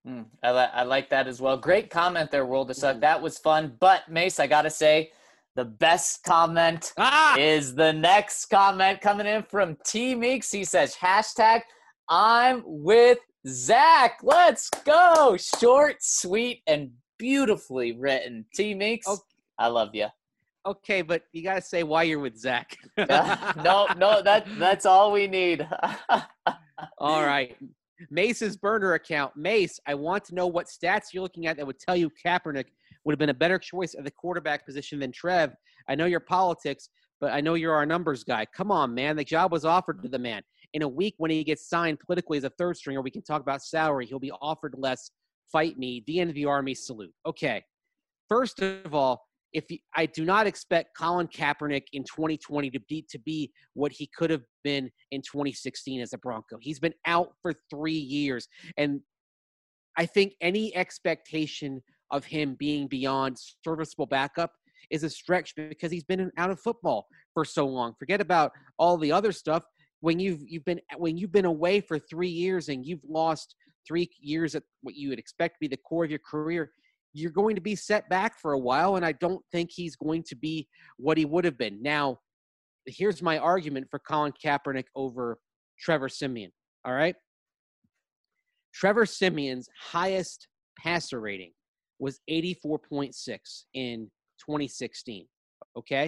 Mm, I, li- I like that as well. Great comment there, World of Suck. Mhm. That was fun. But, Mace, I got to say, the best comment Ah! is the next comment coming in from T Meeks. He says, hashtag I'm with Zach. Let's go. Short, sweet, and beautifully written. T Meeks, Okay. I love you. Okay, but you got to say why you're with Zach. no, no, that that's all we need. All right. Mace's burner account. Mace, I want to know what stats you're looking at that would tell you Kaepernick would have been a better choice at the quarterback position than Trev. I know your politics, but I know you're our numbers guy. Come on, man. The job was offered to the man. In a week when he gets signed politically as a third stringer, we can talk about salary. He'll be offered less. Fight me. D N V Army salute. Okay. First of all, if you, I do not expect Colin Kaepernick in twenty twenty to be to be what he could have been in twenty sixteen as a Bronco. He's been out for three years, and I think any expectation of him being beyond serviceable backup is a stretch because he's been out of football for so long. Forget about all the other stuff. When you've you've been when you've been away for three years and you've lost three years at what you would expect to be the core of your career, you're going to be set back for a while, and I don't think he's going to be what he would have been. Now, here's my argument for Colin Kaepernick over Trevor Siemian, all right? Trevor Siemian's highest passer rating was eighty-four point six in twenty sixteen, okay?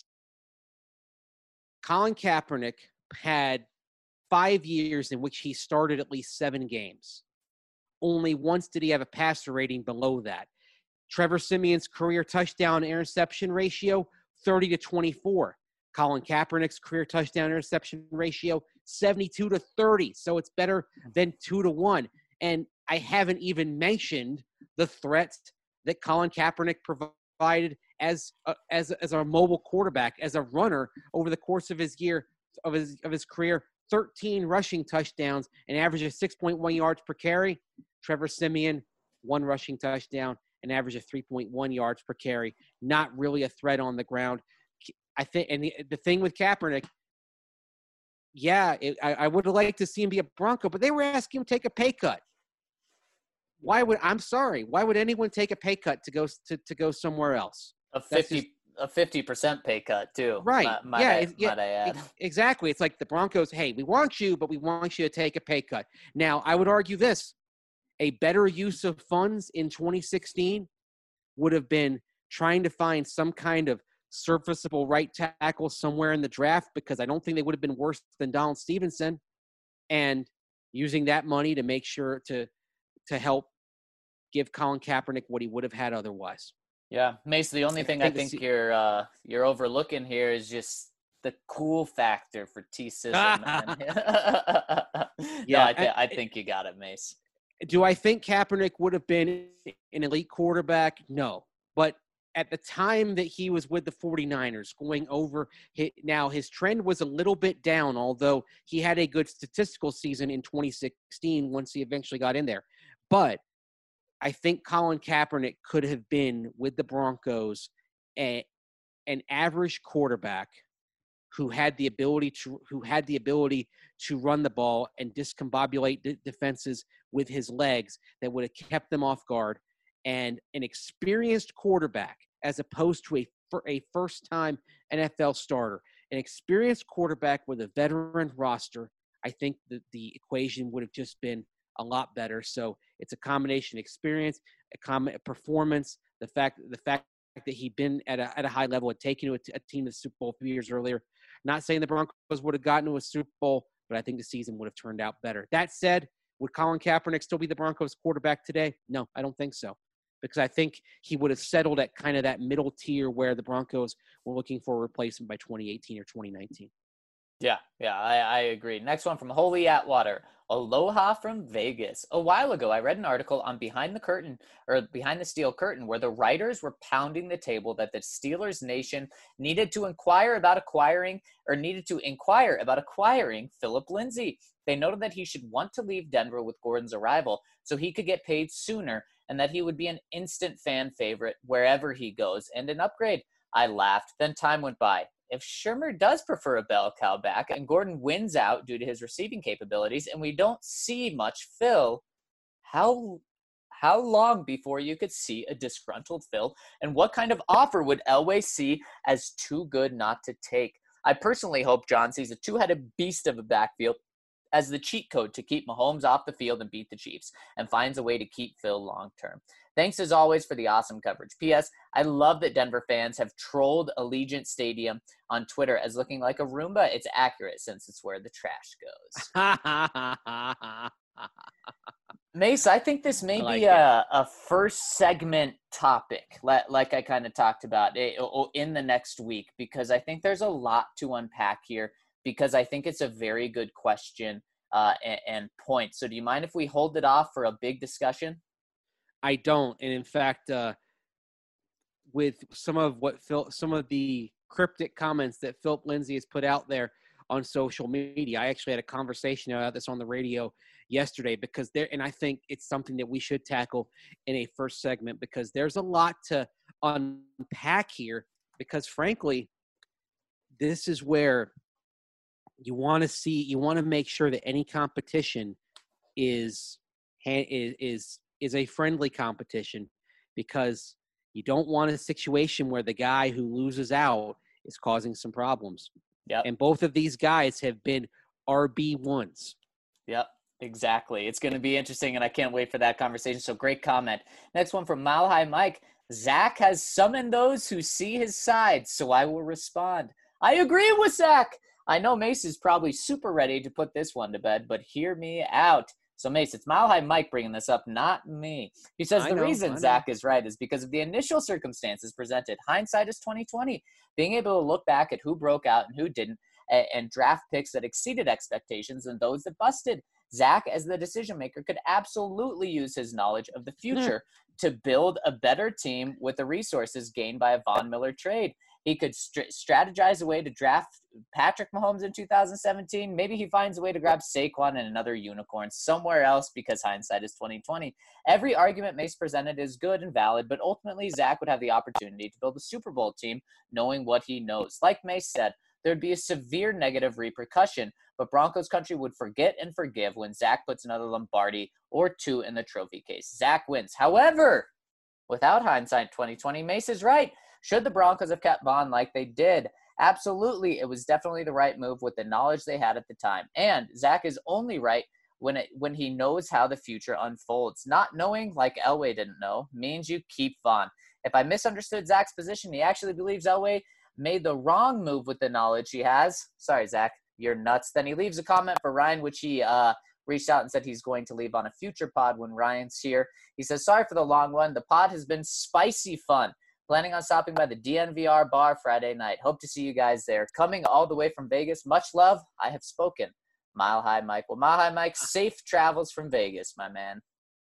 Colin Kaepernick had five years in which he started at least seven games. Only once did he have a passer rating below that. Trevor Siemian's career touchdown interception ratio, thirty to twenty-four. Colin Kaepernick's career touchdown interception ratio, seventy-two to thirty. So it's better than two to one. And I haven't even mentioned the threats that Colin Kaepernick provided as a, as as a mobile quarterback, as a runner over the course of his year of his of his career. thirteen rushing touchdowns, an average of six point one yards per carry. Trevor Siemian, one rushing touchdown, an average of three point one yards per carry. Not really a threat on the ground. I think, and the, the thing with Kaepernick, yeah, it, I, I would have liked to see him be a Bronco, but they were asking him to take a pay cut. Why would I'm sorry? Why would anyone take a pay cut to go to, to go somewhere else? A fifty just, a fifty percent pay cut too. Right? Might, might yeah, I, it, yeah might I add. It, exactly. It's like the Broncos. Hey, we want you, but we want you to take a pay cut. Now, I would argue this: a better use of funds in twenty sixteen would have been trying to find some kind of serviceable right tackle somewhere in the draft, because I don't think they would have been worse than Donald Stevenson, and using that money to make sure to to help give Colin Kaepernick what he would have had otherwise. Yeah, Mace, the only thing I think, I think you're uh, you're overlooking here is just the cool factor for T-Sism. yeah, no, I, th- I think you got it, Mace. Do I think Kaepernick would have been an elite quarterback? No. But at the time that he was with the 49ers going over – now his trend was a little bit down, although he had a good statistical season in twenty sixteen once he eventually got in there. But I think Colin Kaepernick could have been with the Broncos a, an average quarterback who had the ability to who had the ability to run the ball and discombobulate d- defenses with his legs that would have kept them off guard, and an experienced quarterback as opposed to a a first-time N F L starter. An experienced quarterback with a veteran roster, I think that the equation would have just been a lot better. So it's a combination of experience, a com- performance, the fact the fact that he'd been at a at a high level and taken to a, t- a team to the Super Bowl a few years earlier. Not saying the Broncos would have gotten to a Super Bowl, but I think the season would have turned out better. That said, would Colin Kaepernick still be the Broncos quarterback today? No, I don't think so. Because I think he would have settled at kind of that middle tier where the Broncos were looking for a replacement by twenty eighteen or twenty nineteen. Yeah, yeah, I, I agree. Next one from Holy Atwater. Aloha from Vegas. A while ago, I read an article on Behind the Curtain, or Behind the Steel Curtain, where the writers were pounding the table that the Steelers Nation needed to inquire about acquiring, or needed to inquire about acquiring Philip Lindsay. They noted that he should want to leave Denver with Gordon's arrival so he could get paid sooner, and that he would be an instant fan favorite wherever he goes, and an upgrade. I laughed. Then time went by. If Shurmur does prefer a bell cow back and Gordon wins out due to his receiving capabilities and we don't see much Phil, how How long before you could see a disgruntled Phil? And what kind of offer would Elway see as too good not to take? I personally hope John sees a two-headed beast of a backfield as the cheat code to keep Mahomes off the field and beat the Chiefs, and finds a way to keep Phil long-term. Thanks as always for the awesome coverage. P S. I love that Denver fans have trolled Allegiant Stadium on Twitter as looking like a Roomba. It's accurate since it's where the trash goes. Mace, I think this may like be a, a first segment topic, like I kind of talked about in the next week, because I think there's a lot to unpack here, because I think it's a very good question uh, and, and point. So do you mind if we hold it off for a big discussion? I don't. And in fact, uh, with some of what Phil, some of the cryptic comments that Philip Lindsay has put out there on social media, I actually had a conversation about this on the radio yesterday, because there, and I think it's something that we should tackle in a first segment, because there's a lot to unpack here, because frankly, this is where you want to see, you want to make sure that any competition is, is, is, is a friendly competition, because you don't want a situation where the guy who loses out is causing some problems. Yep. And both of these guys have been R B ones. Yep, exactly. It's going to be interesting, and I can't wait for that conversation. So great comment. Next one from Mile High Mike. Zach has summoned those who see his side, so I will respond. I agree with Zach. I know Mace is probably super ready to put this one to bed, but hear me out. So, Mace, it's Mile High Mike bringing this up, not me. He says I the know, reason Zach is right is because of the initial circumstances presented. Hindsight is twenty twenty. Being able to look back at who broke out and who didn't, and, and draft picks that exceeded expectations and those that busted. Zach, as the decision maker, could absolutely use his knowledge of the future yeah. to build a better team with the resources gained by a Von Miller trade. He could st- strategize a way to draft Patrick Mahomes in two thousand seventeen. Maybe he finds a way to grab Saquon and another unicorn somewhere else, because hindsight is twenty twenty. Every argument Mace presented is good and valid, but ultimately Zach would have the opportunity to build a Super Bowl team knowing what he knows. Like Mace said, there'd be a severe negative repercussion, but Broncos country would forget and forgive when Zach puts another Lombardi or two in the trophy case. Zach wins. However, without hindsight twenty twenty, Mace is right. Should the Broncos have kept Von like they did? Absolutely. It was definitely the right move with the knowledge they had at the time. And Zach is only right when it when he knows how the future unfolds. Not knowing, like Elway didn't know, means you keep Von. If I misunderstood Zach's position, he actually believes Elway made the wrong move with the knowledge he has. Sorry, Zach, you're nuts. Then he leaves a comment for Ryan, which he uh, reached out and said he's going to leave on a future pod when Ryan's here. He says, sorry for the long one. The pod has been spicy fun. Planning on stopping by the D N V R bar Friday night. Hope to see you guys there. Coming all the way from Vegas. Much love. I have spoken. Mile High Mike. Well, Mile High Mike, safe travels from Vegas, my man.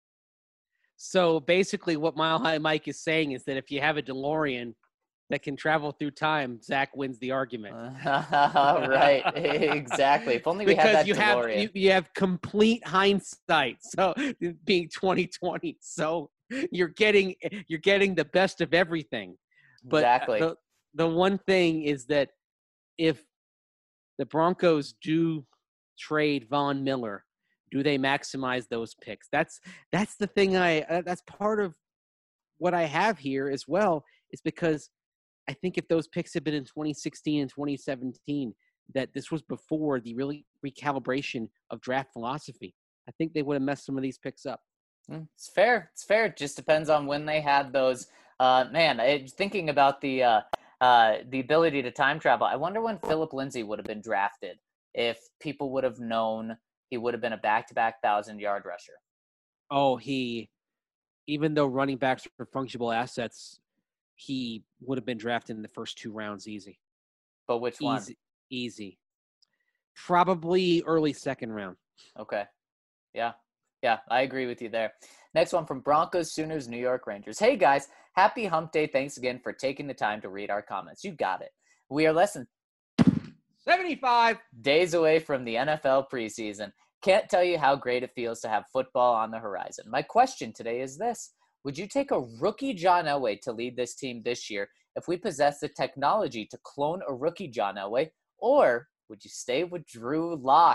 So basically what Mile High Mike is saying is that if you have a DeLorean that can travel through time, Zach wins the argument. Right, exactly. If only we because had that you DeLorean. Have, you, you have complete hindsight, so being twenty twenty. So you're getting you're getting the best of everything. But exactly. the, the one thing is that if the Broncos do trade Von Miller, do they maximize those picks? That's that's the thing. I uh, that's part of what I have here as well, is because I think if those picks had been in twenty sixteen and twenty seventeen, that this was before the really recalibration of draft philosophy, I think they would have messed some of these picks up. It's fair. It's fair. It just depends on when they had those. Uh, man, I, thinking about the uh, uh, the ability to time travel, I wonder when Philip Lindsay would have been drafted, if people would have known he would have been a back-to-back thousand-yard rusher. Oh, he, even though running backs are fungible assets, he would have been drafted in the first two rounds easy. But which one? Easy. Easy. Probably early second round. Okay. Yeah. Yeah, I agree with you there. Next one from Broncos, Sooners, New York Rangers. Hey, guys. Happy hump day. Thanks again for taking the time to read our comments. You got it. We are less than seventy-five days away from the N F L preseason. Can't tell you how great it feels to have football on the horizon. My question today is this. Would you take a rookie John Elway to lead this team this year if we possess the technology to clone a rookie John Elway, or would you stay with Drew Lock?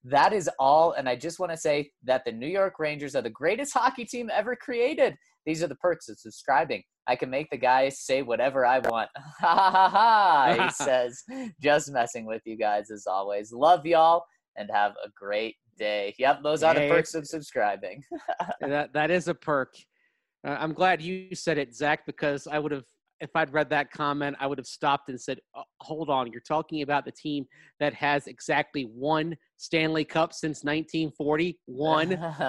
that is all. And I just want to say that the New York Rangers are the greatest hockey team ever created. These are the perks of subscribing. I can make the guy say whatever I want. Ha ha ha ha, he says. Just messing with you guys as always. Love y'all and have a great day. Yep, those are the Hey, perks of subscribing. that that is a perk. Uh, I'm glad you said it, Zach, because I would have, if I'd read that comment, I would have stopped and said, oh, hold on, you're talking about the team that has exactly one Stanley Cup since nineteen forty. One.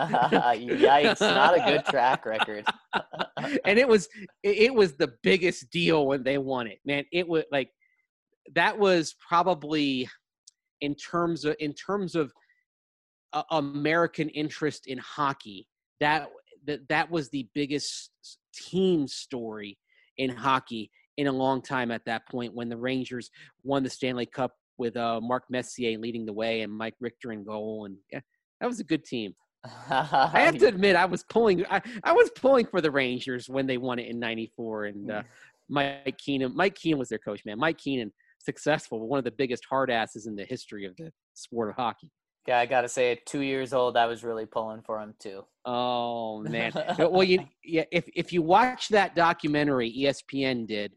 Yikes, not a good track record. And it was it, it was the biggest deal when they won it, man. It was like, that was probably in terms of in terms of uh, American interest in hockey, that that that was the biggest team story in hockey in a long time at that point, when the Rangers won the Stanley Cup with uh, Mark Messier leading the way and Mike Richter in goal. And yeah, that was a good team. I have to admit, I was pulling I, I was pulling for the Rangers when they won it in ninety-four. And uh, Mike Keenan, Mike Keenan was their coach, man. Mike Keenan, successful, one of the biggest hard asses in the history of the sport of hockey. Yeah, I got to say, at two years old, I was really pulling for him too. Oh, man. Well, you, yeah, if, if you watch that documentary E S P N did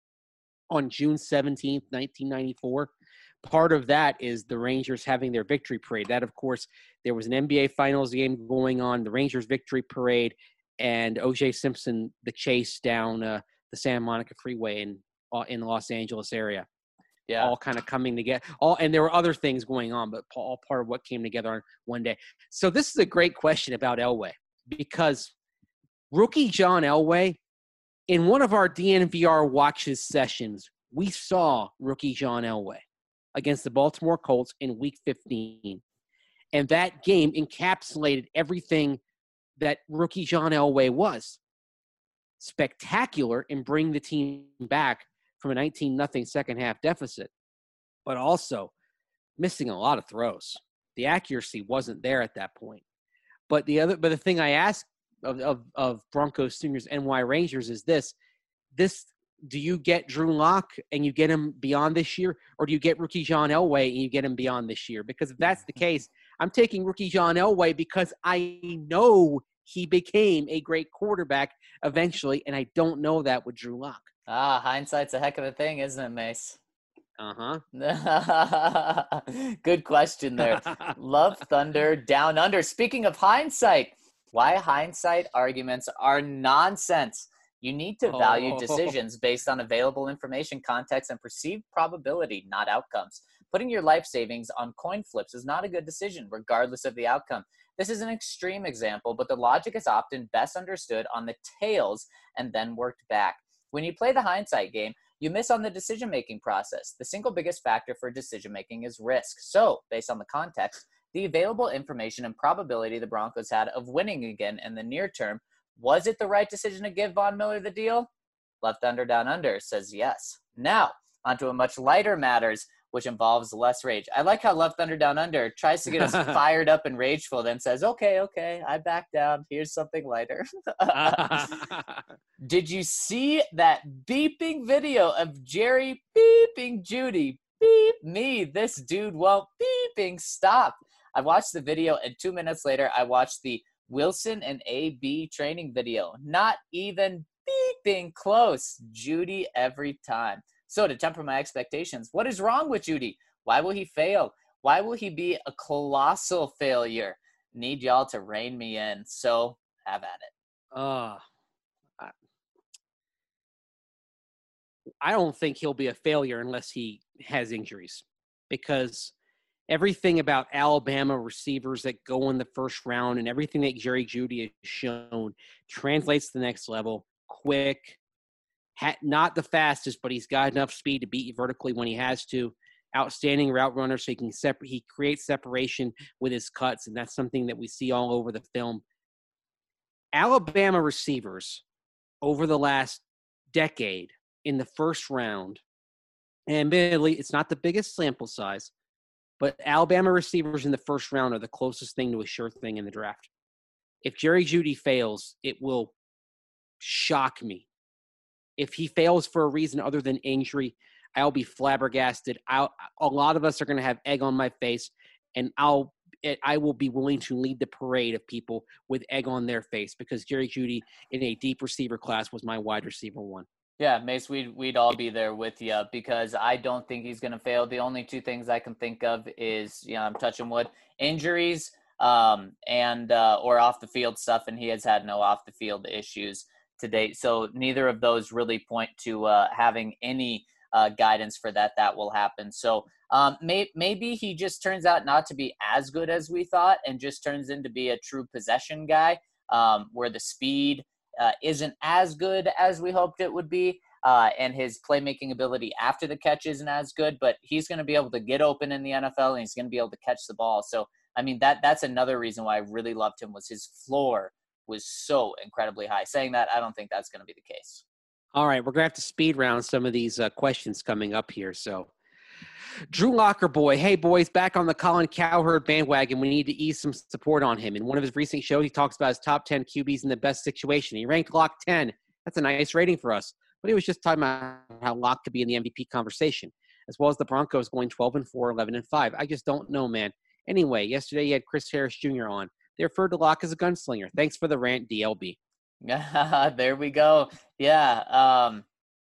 on June seventeenth, nineteen ninety-four, part of that is the Rangers having their victory parade. That, of course, there was an N B A Finals game going on, the Rangers victory parade, and O J Simpson, the chase down uh, the Santa Monica Freeway in uh, in the Los Angeles area. Yeah, all kind of coming together. All and there were other things going on, but all part of what came together on one day. So this is a great question about Elway, because rookie John Elway, in one of our D N V R watches sessions, we saw rookie John Elway against the Baltimore Colts in Week fifteen, and that game encapsulated everything that rookie John Elway was. Spectacular in bringing the team back from a nineteen nothing second half deficit, but also missing a lot of throws. The accuracy wasn't there at that point. But the other, but the thing I ask of, of, of Broncos Stingers N Y Rangers is this, this, do you get Drew Lock and you get him beyond this year, or do you get rookie John Elway and you get him beyond this year? Because if that's the case, I'm taking rookie John Elway because I know he became a great quarterback eventually, and I don't know that with Drew Lock. Ah, hindsight's a heck of a thing, isn't it, Mace? Uh-huh. Good question there. Love Thunder Down Under. Speaking of hindsight, why hindsight arguments are nonsense. You need to value Oh. decisions based on available information, context, and perceived probability, not outcomes. Putting your life savings on coin flips is not a good decision, regardless of the outcome. This is an extreme example, but the logic is often best understood on the tails and then worked back. When you play the hindsight game, you miss on the decision-making process. The single biggest factor for decision-making is risk. So, based on the context, the available information and probability the Broncos had of winning again in the near term, was it the right decision to give Von Miller the deal? Left Thunder Down Under says yes. Now, onto a much lighter matters, which involves less rage. I like how Left Thunder Down Under tries to get us fired up and rageful, then says, okay, okay, I back down. Here's something lighter. Did you see that beeping video of Jerry beeping Judy? Beep me, this dude won't beeping stop. I watched the video, and two minutes later, I watched the Wilson and A B training video. Not even beeping close. Judy every time. So to temper my expectations, what is wrong with Judy? Why will he fail? Why will he be a colossal failure? Need y'all to rein me in. So have at it. Uh, I, I don't think he'll be a failure unless he has injuries, because everything about Alabama receivers that go in the first round and everything that Jerry Judy has shown translates to the next level. Quick, ha- not the fastest, but he's got enough speed to beat you vertically when he has to. Outstanding route runner, so he can separ- he creates separation with his cuts, and that's something that we see all over the film. Alabama receivers over the last decade in the first round, and admittedly, it's not the biggest sample size, but Alabama receivers in the first round are the closest thing to a sure thing in the draft. If Jerry Judy fails, it will shock me. If he fails for a reason other than injury, I'll be flabbergasted. I'll, a lot of us are going to have egg on my face, and I'll it, I will be willing to lead the parade of people with egg on their face because Jerry Jeudy in a deep receiver class was my wide receiver one. Yeah, Mace, we'd, we'd all be there with you because I don't think he's going to fail. The only two things I can think of is, you know, I'm touching wood, injuries um, and uh, or off the field stuff, and he has had no off the field issues to date. So neither of those really point to uh, having any uh, guidance for that that will happen. So um, may, maybe he just turns out not to be as good as we thought and just turns into be a true possession guy um, where the speed – Uh, isn't as good as we hoped it would be, uh, and his playmaking ability after the catch isn't as good, but he's going to be able to get open in the N F L, and he's going to be able to catch the ball. So, I mean, that that's another reason why I really loved him was his floor was so incredibly high. Saying that, I don't think that's going to be the case. All right, we're going to have to speed round some of these uh, questions coming up here, so – Drew Locker boy, hey boys, back on the Colin Cowherd bandwagon. We need to ease some support on him. In one of his recent shows, he talks about his top ten Q Bs in the best situation. He ranked Lock ten. That's a nice rating for us. But he was just talking about how Lock could be in the M V P conversation, as well as the Broncos going twelve and four, eleven and five. I just don't know, man. Anyway, yesterday you had Chris Harris Junior on. They referred to Lock as a gunslinger. Thanks for the rant, D L B. There we go. Yeah. Um,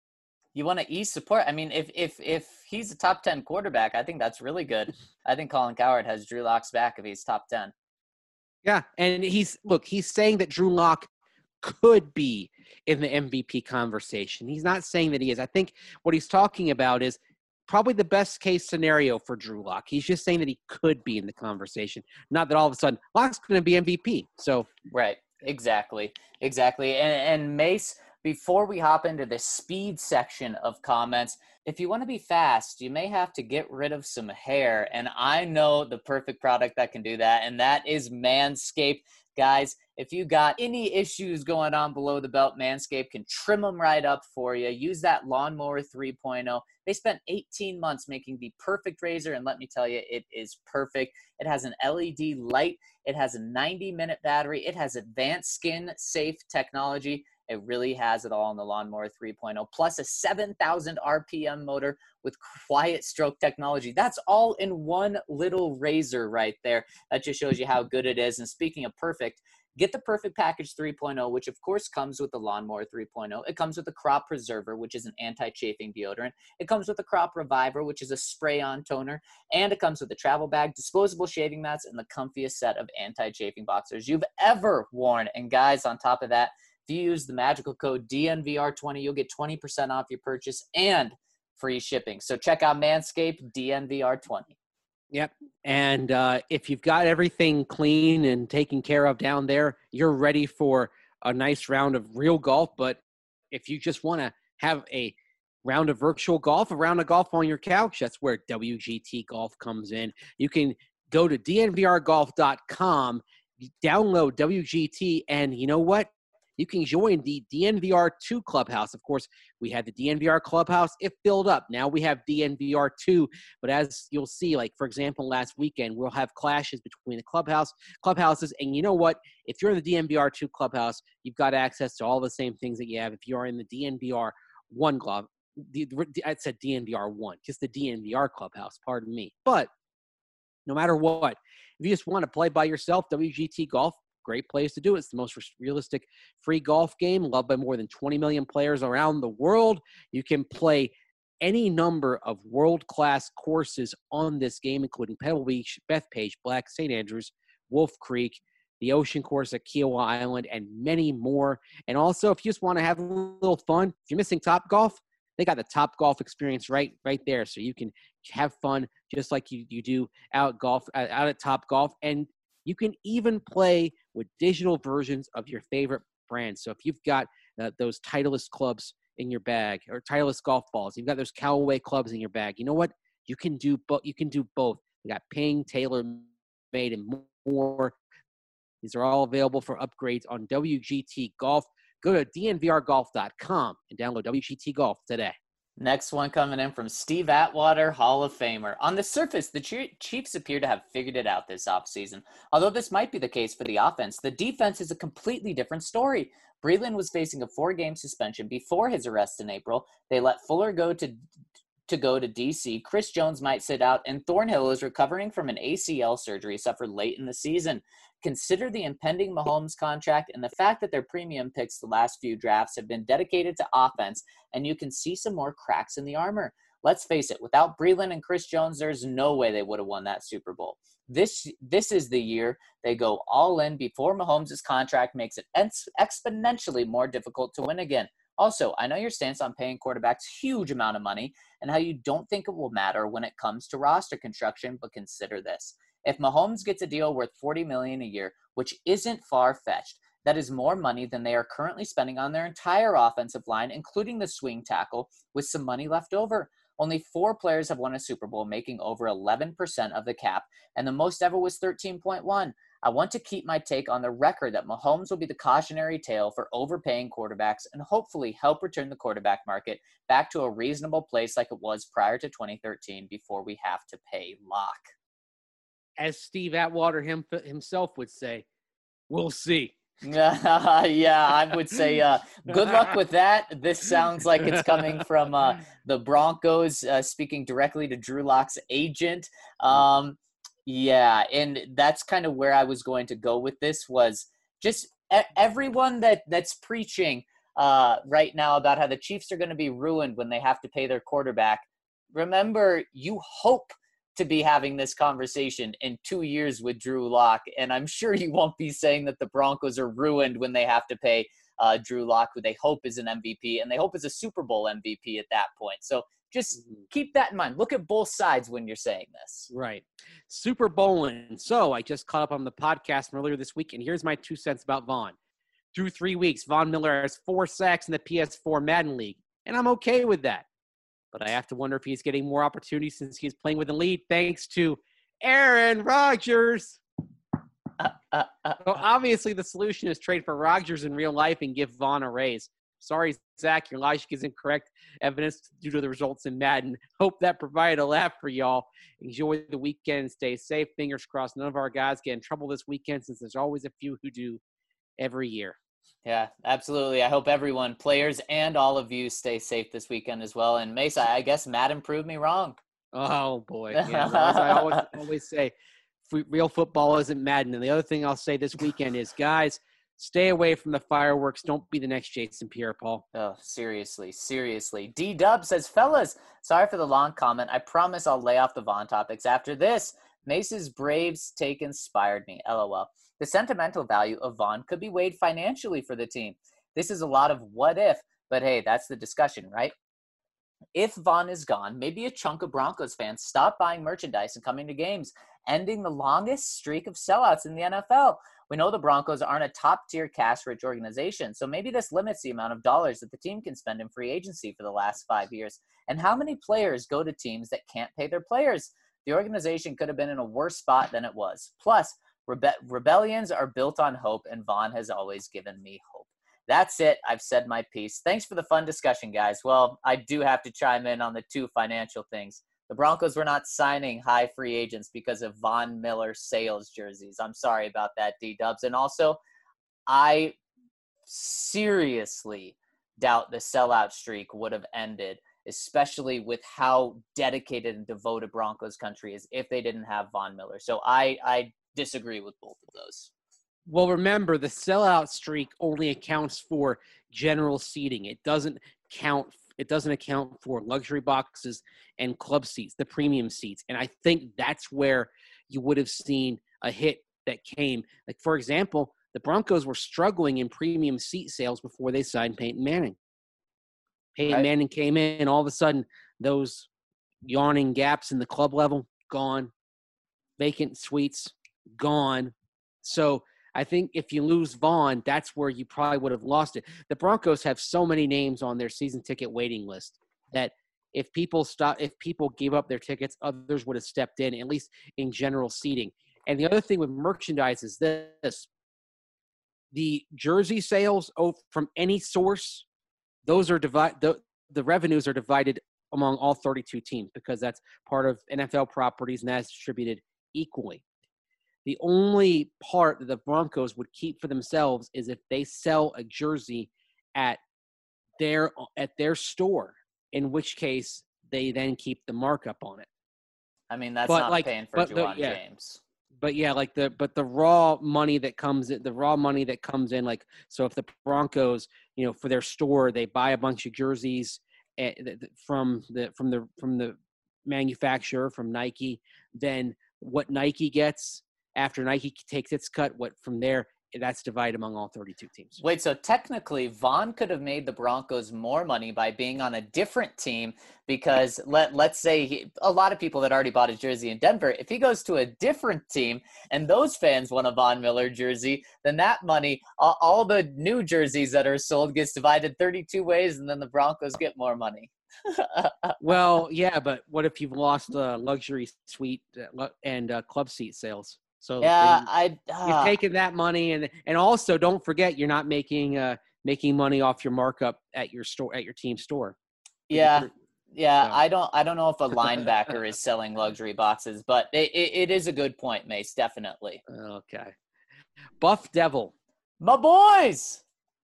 you want to ease support. I mean, if if if he's a top ten quarterback, I think that's really good. I think Colin Cowherd has Drew Lock's back if he's top ten. Yeah, and he's look, he's saying that Drew Lock could be in the M V P conversation. He's not saying that he is. I think what he's talking about is probably the best case scenario for Drew Lock. He's just saying that he could be in the conversation, not that all of a sudden Lock's going to be M V P. So right, exactly, exactly. And, and Mace, before we hop into the speed section of comments, if you want to be fast, you may have to get rid of some hair. And I know the perfect product that can do that, and that is Manscaped. Guys, if you got any issues going on below the belt, Manscaped can trim them right up for you. Use that Lawnmower three point oh. They spent eighteen months making the perfect razor, and let me tell you, it is perfect. It has an L E D light. It has a ninety minute battery. It has advanced skin-safe technology. It really has it all in the Lawnmower three point oh, plus a seven thousand R P M motor with quiet stroke technology. That's all in one little razor right there. That just shows you how good it is. And speaking of perfect, get the Perfect Package three point oh, which of course comes with the Lawnmower three point oh. It comes with the Crop Preserver, which is an anti-chafing deodorant. It comes with the Crop Reviver, which is a spray-on toner. And it comes with the travel bag, disposable shaving mats, and the comfiest set of anti-chafing boxers you've ever worn. And guys, on top of that, if you use the magical code D N V R twenty, you'll get twenty percent off your purchase and free shipping. So check out Manscaped, D N V R twenty. Yep. And uh, if you've got everything clean and taken care of down there, you're ready for a nice round of real golf. But if you just want to have a round of virtual golf, a round of golf on your couch, that's where W G T Golf comes in. You can go to D N V R golf dot com, download W G T, and you know what? You can join the D N V R two Clubhouse. Of course, we had the D N V R Clubhouse. It filled up. Now we have D N V R two. But as you'll see, like, for example, last weekend, we'll have clashes between the clubhouse clubhouses. And you know what? If you're in the D N V R two Clubhouse, you've got access to all the same things that you have if you're in the D N V R one club. The, I said D N V R one, just the D N V R Clubhouse, pardon me. But no matter what, if you just want to play by yourself, W G T Golf, great place to do it. It's the most realistic free golf game, loved by more than twenty million players around the world. You can play any number of world-class courses on this game, including Pebble Beach, Bethpage, Black, Saint Andrews, Wolf Creek, the Ocean Course at Kiowa Island, and many more. And also, if you just want to have a little fun, if you're missing Top Golf, they got the Top Golf experience right right there, so you can have fun just like you, you do out golf out at Top Golf. And you can even play with digital versions of your favorite brands. So if you've got uh, those Titleist clubs in your bag or Titleist golf balls, you've got those Callaway clubs in your bag, you know what? You can do both. You can do both. They got Ping, TaylorMade, and more. These are all available for upgrades on W G T Golf. Go to D N V R golf dot com and download W G T Golf today. Next one coming in from Steve Atwater, Hall of Famer. On the surface, the Chiefs appear to have figured it out this offseason. Although this might be the case for the offense, the defense is a completely different story. Breeland was facing a four-game suspension before his arrest in April. They let Fuller go to to go to D C, Chris Jones might sit out, and Thornhill is recovering from an A C L surgery suffered late in the season. Consider the impending Mahomes contract and the fact that their premium picks the last few drafts have been dedicated to offense, and you can see some more cracks in the armor. Let's face it, without Breeland and Chris Jones, there's no way they would have won that Super Bowl. This this is the year they go all in before Mahomes' contract makes it ex- exponentially more difficult to win again. Also, I know your stance on paying quarterbacks huge amount of money and how you don't think it will matter when it comes to roster construction, but consider this. If Mahomes gets a deal worth forty million dollars a year, which isn't far-fetched, that is more money than they are currently spending on their entire offensive line, including the swing tackle, with some money left over. Only four players have won a Super Bowl, making over eleven percent of the cap, and the most ever was thirteen point one. I want to keep my take on the record that Mahomes will be the cautionary tale for overpaying quarterbacks and hopefully help return the quarterback market back to a reasonable place like it was prior to twenty thirteen before we have to pay Lock. As Steve Atwater him, himself would say, we'll see. Uh, yeah, I would say uh, good luck with that. This sounds like it's coming from uh, the Broncos, uh, speaking directly to Drew Lock's agent. Um, yeah, and that's kind of where I was going to go with this was just e- everyone that, that's preaching uh, right now about how the Chiefs are going to be ruined when they have to pay their quarterback. Remember, you hope to be having this conversation in two years with Drew Lock, and I'm sure you won't be saying that the Broncos are ruined when they have to pay uh, Drew Lock, who they hope is an M V P, and they hope is a Super Bowl M V P at that point. So just keep that in mind. Look at both sides when you're saying this. Right. Super Bowling. So I just caught up on the podcast from earlier this week, and here's my two cents about Vaughn. Through three weeks, Von Miller has four sacks in the P S four Madden League, and I'm okay with that. But I have to wonder if he's getting more opportunities since he's playing with the lead thanks to Aaron Rodgers. Uh, uh, uh, so obviously the solution is trade for Rodgers in real life and give Vaughn a raise. Sorry, Zach, your logic is incorrect. Evidence due to the results in Madden. Hope that provided a laugh for y'all. Enjoy the weekend. Stay safe. Fingers crossed none of our guys get in trouble this weekend since there's always a few who do every year. Yeah, absolutely. I hope everyone, players and all of you, stay safe this weekend as well. And Mesa, I guess Madden proved me wrong. Oh, boy. Yeah, well, as I always, always say, real football isn't Madden. And the other thing I'll say this weekend is, guys, stay away from the fireworks. Don't be the next Jason Pierre-Paul. Oh, seriously, seriously. D-Dub says, fellas, sorry for the long comment. I promise I'll lay off the Vaughn topics after this. Mace's Braves take inspired me. LOL. The sentimental value of Vaughn could be weighed financially for the team. This is a lot of what if, but hey, that's the discussion, right? If Vaughn is gone, maybe a chunk of Broncos fans stop buying merchandise and coming to games, ending the longest streak of sellouts in the N F L. We know the Broncos aren't a top-tier cash-rich organization, so maybe this limits the amount of dollars that the team can spend in free agency for the last five years. And how many players go to teams that can't pay their players? The organization could have been in a worse spot than it was. Plus, Rebe- rebellions are built on hope, and Vaughn has always given me hope. That's it. I've said my piece. Thanks for the fun discussion, guys. Well, I do have to chime in on the two financial things. The Broncos were not signing high free agents because of Von Miller sales jerseys. I'm sorry about that, D-Dubs. And also, I seriously doubt the sellout streak would have ended, especially with how dedicated and devoted Broncos country is if they didn't have Von Miller. So I, I disagree with both of those. Well, remember, the sellout streak only accounts for general seating. It doesn't count. It doesn't account for luxury boxes and club seats, the premium seats. And I think that's where you would have seen a hit that came. Like, for example, the Broncos were struggling in premium seat sales before they signed Peyton Manning. Peyton right. Manning came in, and all of a sudden, those yawning gaps in the club level, gone. Vacant suites, gone. So I think if you lose Vaughn, that's where you probably would have lost it. The Broncos have so many names on their season ticket waiting list that if people stop, if people gave up their tickets, others would have stepped in, at least in general seating. And the other thing with merchandise is this: the jersey sales from any source, those are divided. The, the revenues are divided among all thirty-two teams because that's part of N F L properties and that's distributed equally. The only part that the Broncos would keep for themselves is if they sell a jersey at their at their store, in which case they then keep the markup on it. I mean, that's but not like, paying for but the, Juwan yeah. James. But yeah, like the but the raw money that comes in, the raw money that comes in, like so if the Broncos, you know, for their store, they buy a bunch of jerseys uh, from the from the from the manufacturer, from Nike, then what Nike gets after Nike takes its cut, what from there, that's divided among all thirty-two teams. Wait, so technically Von could have made the Broncos more money by being on a different team because let, let's say he, a lot of people that already bought his jersey in Denver, if he goes to a different team and those fans want a Von Miller jersey, then that money, all, all the new jerseys that are sold gets divided thirty-two ways and then the Broncos get more money. Well, yeah, but what if you've lost uh, luxury suite and uh, club seat sales? So yeah, you, I uh, you're taking that money, and and also don't forget you're not making uh, making money off your markup at your store at your team store. Yeah, yeah. So. I don't I don't know if a linebacker is selling luxury boxes, but it, it, it is a good point, Mace. Definitely. Okay, Buff Devil, my boys.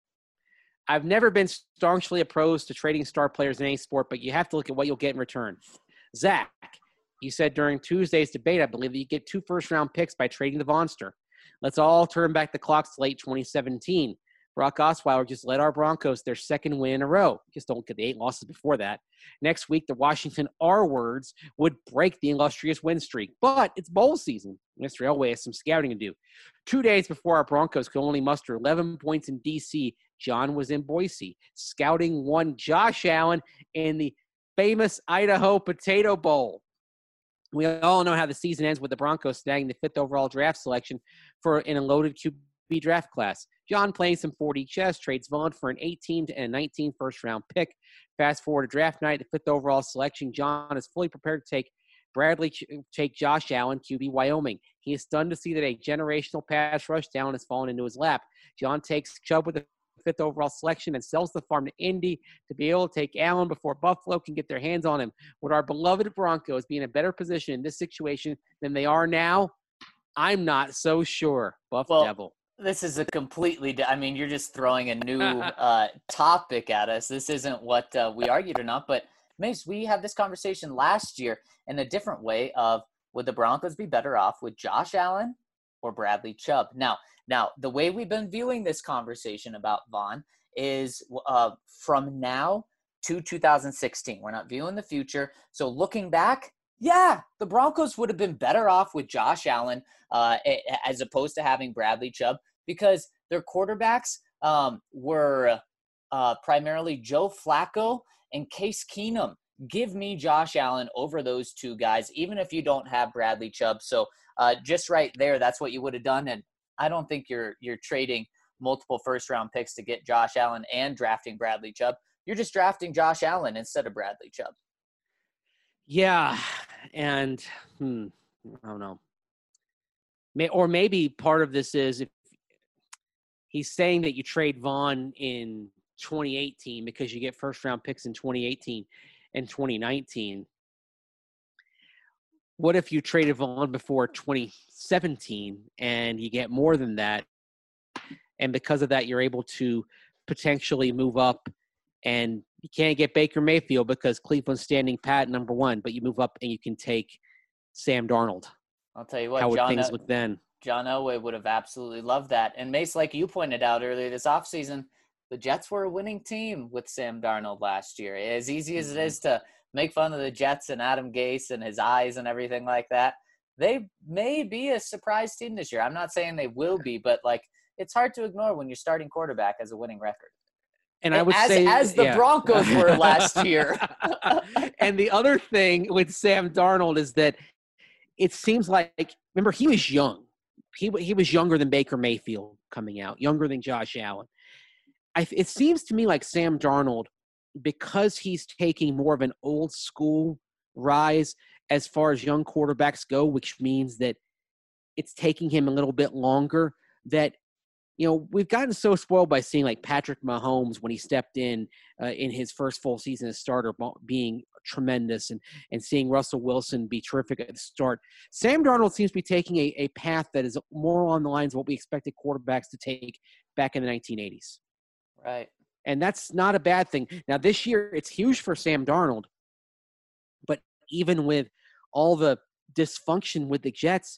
I've never been staunchly opposed to trading star players in any sport, but you have to look at what you'll get in return. Zach. You said during Tuesday's debate, I believe, that you get two first-round picks by trading the Vonster. Let's all turn back the clocks to late twenty seventeen. Brock Osweiler just led our Broncos their second win in a row. Just don't get the eight losses before that. Next week, the Washington R-words would break the illustrious win streak. But it's bowl season. Mister Elway has some scouting to do. Two days before our Broncos could only muster eleven points in D C, John was in Boise, scouting one Josh Allen in the famous Idaho Potato Bowl. We all know how the season ends with the Broncos snagging the fifth overall draft selection for in a loaded Q B draft class. John playing some four D chess, trades Vaughn for an eighteen and a nineteen first-round pick. Fast forward to draft night, the fifth overall selection. John is fully prepared to take Bradley, take Josh Allen, Q B Wyoming. He is stunned to see that a generational pass rush talent has fallen into his lap. John takes Chubb with the fifth overall selection and sells the farm to Indy to be able to take Allen before Buffalo can get their hands on him. Would our beloved Broncos be in a better position in this situation than they are now? I'm not so sure. Buff well, Devil. This is a completely – I mean, you're just throwing a new uh, topic at us. This isn't what uh, we argued or not. But, Mace, we had this conversation last year in a different way of would the Broncos be better off with Josh Allen or Bradley Chubb? Now – Now, the way we've been viewing this conversation about Vaughn is uh, from now to two thousand sixteen. We're not viewing the future. So looking back, yeah, the Broncos would have been better off with Josh Allen uh, as opposed to having Bradley Chubb because their quarterbacks um, were uh, primarily Joe Flacco and Case Keenum. Give me Josh Allen over those two guys, even if you don't have Bradley Chubb. So uh, just right there, that's what you would have done. And I don't think you're you're trading multiple first-round picks to get Josh Allen and drafting Bradley Chubb. You're just drafting Josh Allen instead of Bradley Chubb. Yeah, and hmm, I don't know. May, or maybe part of this is if he's saying that you trade Vaughn in twenty eighteen because you get first-round picks in twenty eighteen and twenty nineteen. What if you traded Vaughn before twenty seventeen and you get more than that? And because of that, you're able to potentially move up and you can't get Baker Mayfield because Cleveland's standing pat number one, but you move up and you can take Sam Darnold. I'll tell you what, How would John, things look then? John Elway would have absolutely loved that. And Mace, like you pointed out earlier this offseason, the Jets were a winning team with Sam Darnold last year. As easy as it is to make fun of the Jets and Adam Gase and his eyes and everything like that, they may be a surprise team this year. I'm not saying they will be, but like it's hard to ignore when you're starting quarterback as a winning record. And I would as, say as the yeah. Broncos were last year. And the other thing with Sam Darnold is that it seems like, remember, he was young. He he was younger than Baker Mayfield coming out, younger than Josh Allen. I, it seems to me like Sam Darnold, because he's taking more of an old school rise as far as young quarterbacks go, which means that it's taking him a little bit longer, that, you know, we've gotten so spoiled by seeing like Patrick Mahomes when he stepped in uh, in his first full season as starter being tremendous and, and seeing Russell Wilson be terrific at the start. Sam Darnold seems to be taking a, a path that is more along the lines of what we expected quarterbacks to take back in the nineteen eighties. Right. And that's not a bad thing. Now, this year, it's huge for Sam Darnold even with all the dysfunction with the Jets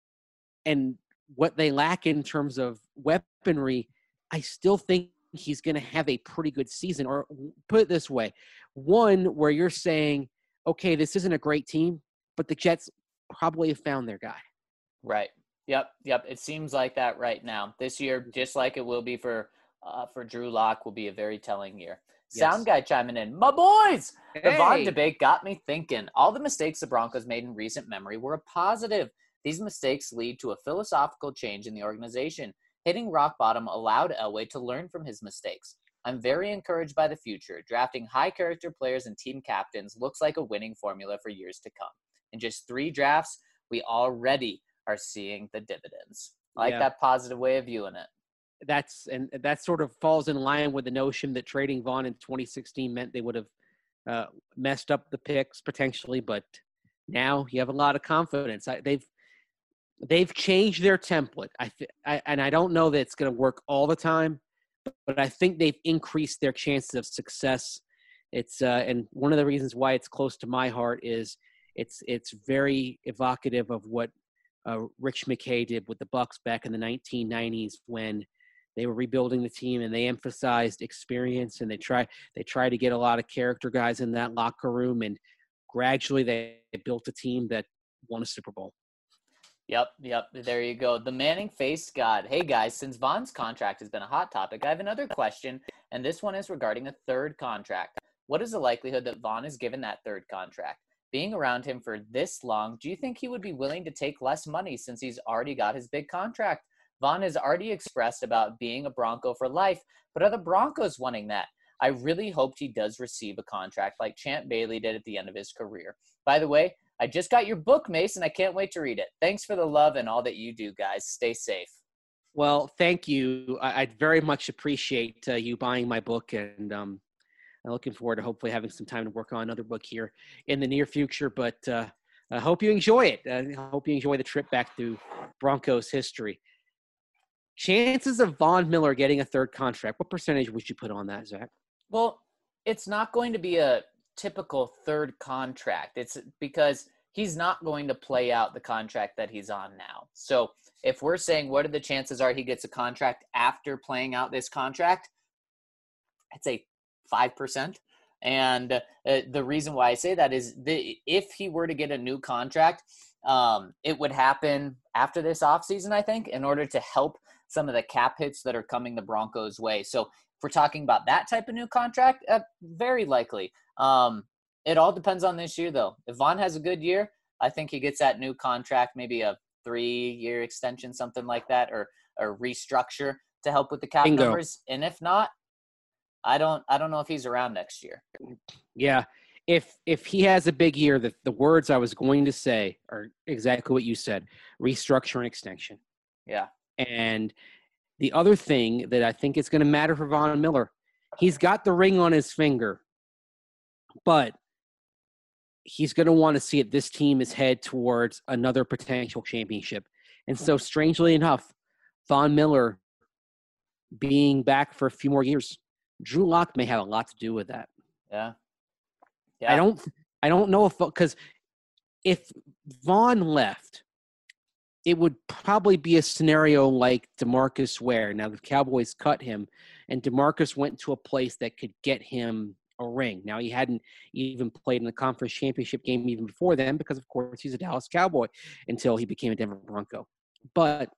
and what they lack in terms of weaponry, I still think he's going to have a pretty good season. Or put it this way, one where you're saying, okay, this isn't a great team, but the Jets probably have found their guy. Right. Yep. Yep. It seems like that right now. This year, just like it will be for uh, for Drew Lock, will be a very telling year. Yes. Sound guy chiming in. My boys! The Vaughn Hey! debate got me thinking. All the mistakes the Broncos made in recent memory were a positive. These mistakes lead to a philosophical change in the organization. Hitting rock bottom allowed Elway to learn from his mistakes. I'm very encouraged by the future. Drafting high-character players and team captains looks like a winning formula for years to come. In just three drafts, we already are seeing the dividends. I like Yeah. that positive way of viewing it. That's and that sort of falls in line with the notion that trading Vaughn in twenty sixteen meant they would have uh, messed up the picks potentially, but now you have a lot of confidence. I, they've they've changed their template. I, th- I and I don't know that it's going to work all the time, but, but I think they've increased their chances of success. It's uh, and one of the reasons why it's close to my heart is it's it's very evocative of what uh, Rich McKay did with the Bucs back in the nineteen nineties when they were rebuilding the team and they emphasized experience and they try they try to get a lot of character guys in that locker room, and gradually they built a team that won a Super Bowl. Yep, yep. There you go. The Manning face god. Hey guys, since Vaughn's contract has been a hot topic, I have another question, and this one is regarding a third contract. What is the likelihood that Vaughn is given that third contract? Being around him for this long, do you think he would be willing to take less money since he's already got his big contract? Vaughn has already expressed about being a Bronco for life, but are the Broncos wanting that? I really hoped he does receive a contract like Champ Bailey did at the end of his career. By the way, I just got your book, Mason. I can't wait to read it. Thanks for the love and all that you do, guys. Stay safe. Well, thank you. I, I'd very much appreciate uh, you buying my book, and um, I'm looking forward to hopefully having some time to work on another book here in the near future. But uh, I hope you enjoy it. I hope you enjoy the trip back through Broncos history. Chances of Von Miller getting a third contract, what percentage would you put on that, Zach? Well, it's not going to be a typical third contract. It's because he's not going to play out the contract that he's on now. So if we're saying what are the chances are he gets a contract after playing out this contract, I'd say five percent. And uh, the reason why I say that is the, if he were to get a new contract, um, it would happen after this offseason, I think, in order to help some of the cap hits that are coming the Broncos' way. So if we're talking about that type of new contract, uh, very likely. Um, it all depends on this year, though. If Vaughn has a good year, I think he gets that new contract, maybe a three-year extension, something like that, or or restructure to help with the cap Bingo. numbers. And if not, I don't I don't know if he's around next year. Yeah. If if he has a big year, the, the words I was going to say are exactly what you said, restructure and extension. Yeah. And the other thing that I think is going to matter for Von Miller, he's got the ring on his finger, but he's going to want to see it. This team is head towards another potential championship. And so strangely enough, Von Miller being back for a few more years, Drew Lock may have a lot to do with that. Yeah. Yeah. I don't, I don't know if, because if Vaughn left, it would probably be a scenario like DeMarcus Ware. Now the Cowboys cut him, and DeMarcus went to a place that could get him a ring. Now he hadn't even played in the conference championship game even before then, because of course he's a Dallas Cowboy until he became a Denver Bronco. But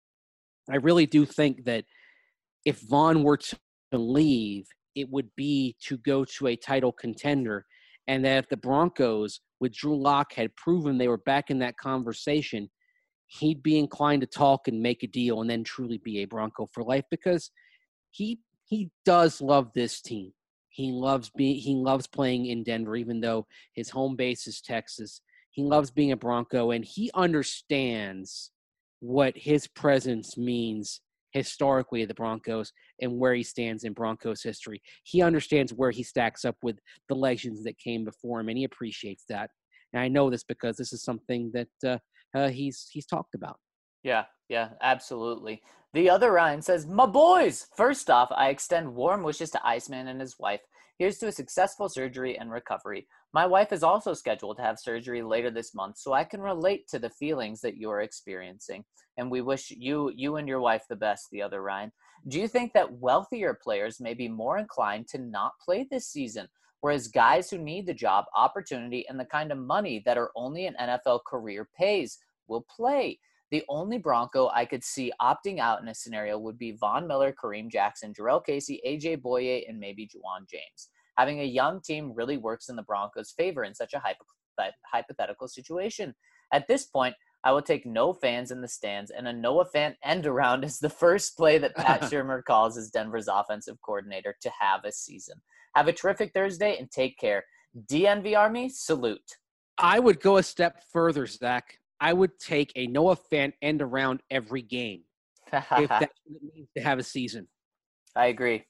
I really do think that if Vaughn were to leave, it would be to go to a title contender, and that if the Broncos with Drew Lock had proven they were back in that conversation, he'd be inclined to talk and make a deal and then truly be a Bronco for life, because he he does love this team. He loves being he loves playing in Denver, even though his home base is Texas. He loves being a Bronco, and he understands what his presence means historically of the Broncos and where he stands in Broncos history. He understands where he stacks up with the legends that came before him, and he appreciates that. And I know this because this is something that uh, uh, he's he's talked about. Yeah, yeah, absolutely. The other Ryan says, my boys, first off, I extend warm wishes to Iceman and his wife. Here's to a successful surgery and recovery. My wife is also scheduled to have surgery later this month, so I can relate to the feelings that you're experiencing. And we wish you, you and your wife the best, the other Ryan. Do you think that wealthier players may be more inclined to not play this season, whereas guys who need the job, opportunity, and the kind of money that are only an N F L career pays will play? The only Bronco I could see opting out in a scenario would be Von Miller, Kareem Jackson, Jarrell Casey, A J Boye, and maybe Juwan James. Having a young team really works in the Broncos' favor in such a hypo- hypothetical situation. At this point, I will take no fans in the stands and a Noah Fant end around as the first play that Pat Shurmur calls as Denver's offensive coordinator to have a season. Have a terrific Thursday and take care. D N V Army, salute. I would go a step further, Zach. I would take a Noah Fant end around every game if that's what it means to have a season. I agree.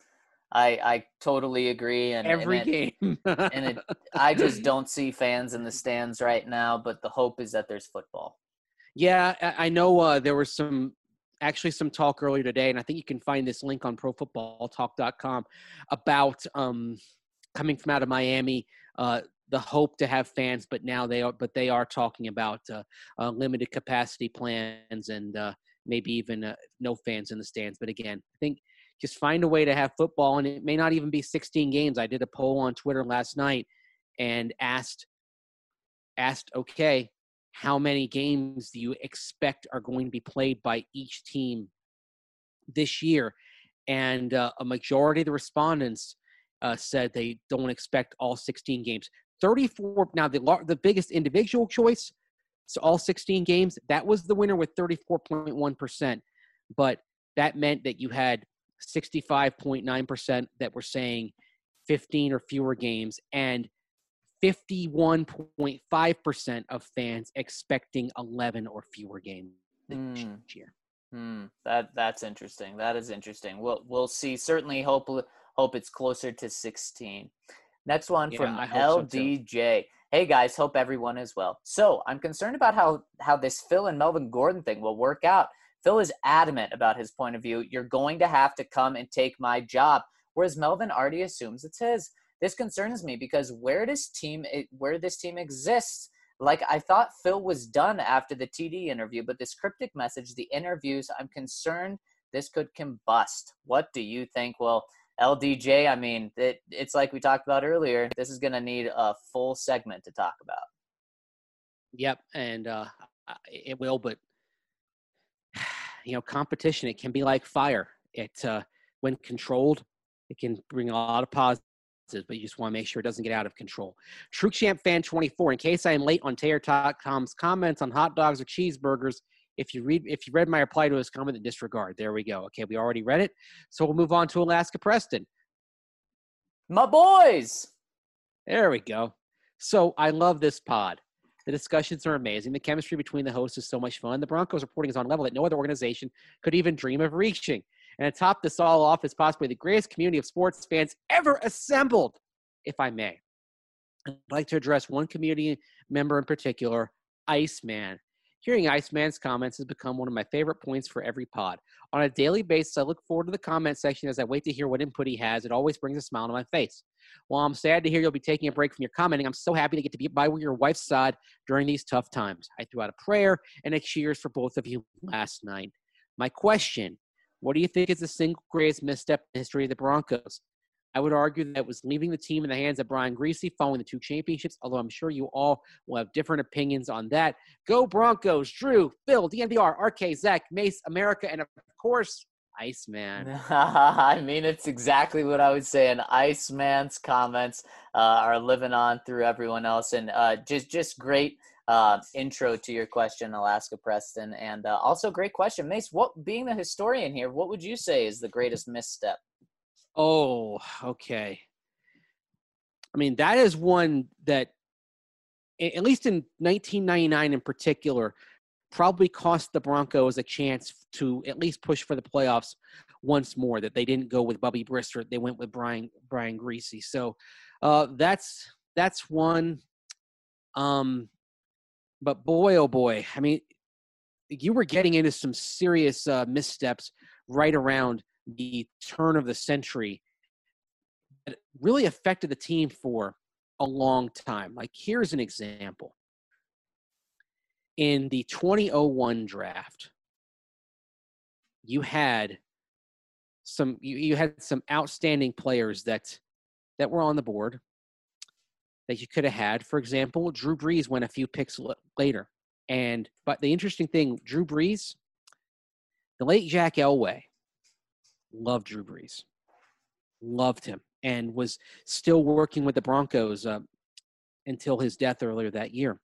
I I totally agree. And every and it, game. and it, I just don't see fans in the stands right now, but the hope is that there's football. Yeah, I, I know uh, there was some actually some talk earlier today, and I think you can find this link on pro football talk dot com about um, coming from out of Miami, uh, the hope to have fans, but now they are, but they are talking about uh, uh, limited capacity plans and uh, maybe even uh, no fans in the stands. But again, I think just find a way to have football, and it may not even be sixteen games. I did a poll on Twitter last night and asked, asked, okay, how many games do you expect are going to be played by each team this year? And uh, a majority of the respondents uh, said they don't expect all sixteen games. thirty-four Now, the the biggest individual choice, so all sixteen games, that was the winner with thirty-four point one percent. But that meant that you had sixty-five point nine percent that were saying fifteen or fewer games, and fifty-one point five percent of fans expecting eleven or fewer games this mm. year. Mm. That that's interesting. That is interesting. We'll we'll see. Certainly hope hope it's closer to sixteen. Next one Yeah, from I hope L so D too. J. Hey guys, hope everyone is well. So I'm concerned about how how this Phil and Melvin Gordon thing will work out. Phil is adamant about his point of view. You're going to have to come and take my job, whereas Melvin already assumes it's his. This concerns me because where does team where this team exists? Like, I thought Phil was done after the T D interview, but this cryptic message, the interviews, I'm concerned this could combust. What do you think? Well, L D J, I mean, it, it's like we talked about earlier. This is going to need a full segment to talk about. Yep, and uh, it will, but, you know, competition, it can be like fire. It, uh, when controlled, it can bring a lot of positives, but you just want to make sure it doesn't get out of control. True Champ Fan twenty-four, in case I am late on Taylor dot com's comments on hot dogs or cheeseburgers, if you read if you read my reply to his comment, then disregard. There we go. Okay, we already read it. So we'll move on to Alaska Preston. My boys! There we go. So I love this pod. The discussions are amazing. The chemistry between the hosts is so much fun. The Broncos reporting is on a level that no other organization could even dream of reaching. And to top this all off is possibly the greatest community of sports fans ever assembled, if I may. I'd like to address one community member in particular, Iceman. Hearing Iceman's comments has become one of my favorite points for every pod. On a daily basis, I look forward to the comment section as I wait to hear what input he has. It always brings a smile to my face. While I'm sad to hear you'll be taking a break from your commenting, I'm so happy to get to be by your wife's side during these tough times. I threw out a prayer and a cheers for both of you last night. My question, what do you think is the single greatest misstep in the history of the Broncos? I would argue that it was leaving the team in the hands of Brian Griese following the two championships, although I'm sure you all will have different opinions on that. Go Broncos, Drew, Phil, D N V R, R K, Zach, Mace, America, and of course, Iceman. I mean, it's exactly what I would say. And Iceman's comments uh, are living on through everyone else. And uh, just, just great uh, intro to your question, Alaska Preston. And uh, also great question. Mace, what, being the historian here, what would you say is the greatest misstep? Oh, okay. I mean, that is one that, at least in nineteen ninety-nine in particular, probably cost the Broncos a chance to at least push for the playoffs once more, that they didn't go with Bubby Brister. They went with Brian Brian Griese. So uh, that's that's one. Um, but boy, oh boy, I mean, you were getting into some serious uh, missteps right around the turn of the century. really affected the team for a long time. Like, here's an example. In the twenty oh one draft, you had some you, you had some outstanding players that that were on the board that you could have had. For example, Drew Brees went a few picks l- later. And but the interesting thing, Drew Brees, the late Jack Elway loved Drew Brees, loved him, and was still working with the Broncos uh, until his death earlier that year.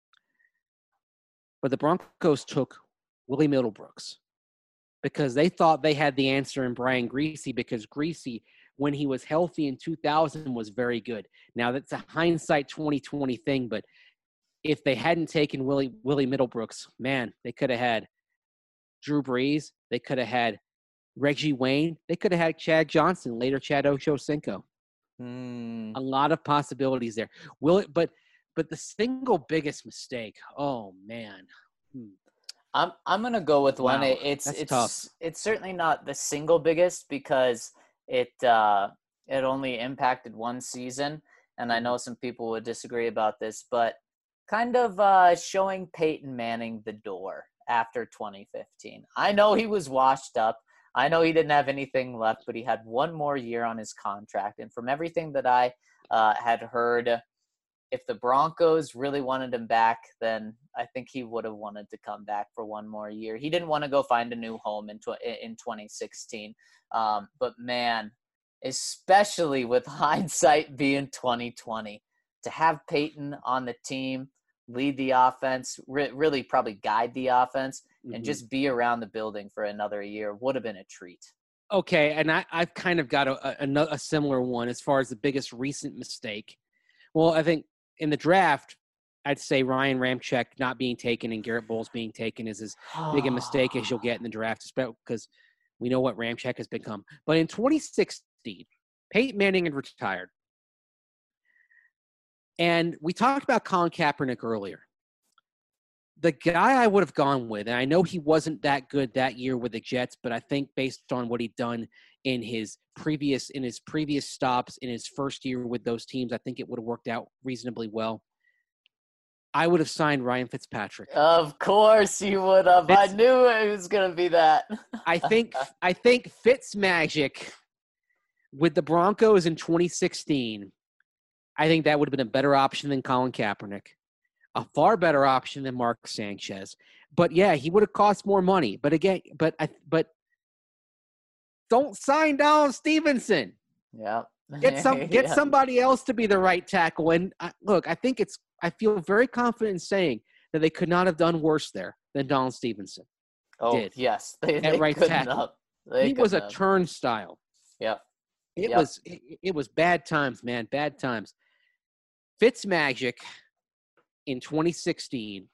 But the Broncos took Willie Middlebrooks because they thought they had the answer in Brian Griese, because Griese, when he was healthy in two thousand, was very good. Now, that's a hindsight twenty twenty thing, but if they hadn't taken Willie Willie Middlebrooks, man, they could have had Drew Brees. They could have had Reggie Wayne. They could have had Chad Johnson, later Chad Ochocinco. Mm. A lot of possibilities there. Will it? But but the single biggest mistake. Oh man. Hmm. I'm I'm gonna go with one. Wow, It, it's that's it's tough. it's certainly not the single biggest because it uh, it only impacted one season, and I know some people would disagree about this, but kind of uh, showing Peyton Manning the door after twenty fifteen. I know he was washed up. I know he didn't have anything left, but he had one more year on his contract, and from everything that I uh, had heard, if the Broncos really wanted him back, then I think he would have wanted to come back for one more year. He didn't want to go find a new home in tw- in twenty sixteen. Um, but man, especially with hindsight being twenty twenty, to have Peyton on the team, lead the offense, re- really probably guide the offense, and Mhm. just be around the building for another year would have been a treat. Okay, and I, I've kind of got a, a, a similar one as far as the biggest recent mistake. Well, I think in the draft, I'd say Ryan Ramczyk not being taken and Garrett Bowles being taken is as big a mistake as you'll get in the draft, because we know what Ramczyk has become. But in twenty sixteen, Peyton Manning had retired. And we talked about Colin Kaepernick earlier. The guy I would have gone with, and I know he wasn't that good that year with the Jets, but I think based on what he'd done in his previous in his previous stops in his first year with those teams, I think it would have worked out reasonably well. I would have signed Ryan Fitzpatrick. Of course you would have. Fitz, I knew it was going to be that. I think I think Fitzmagic with the Broncos in twenty sixteen, I think that would have been a better option than Colin Kaepernick. A far better option than Mark Sanchez. But yeah, he would have cost more money. But again, but I but don't sign Donald Stevenson. Yeah. Get some get yeah. somebody else to be the right tackle. And I, look, I think it's I feel very confident in saying that they could not have done worse there than Donald Stevenson. Oh, did yes. They, at they right tackle. They he was a have. turnstile. Yep. It yep. was it, it was bad times, man. Bad times. Fitzmagic in twenty sixteen,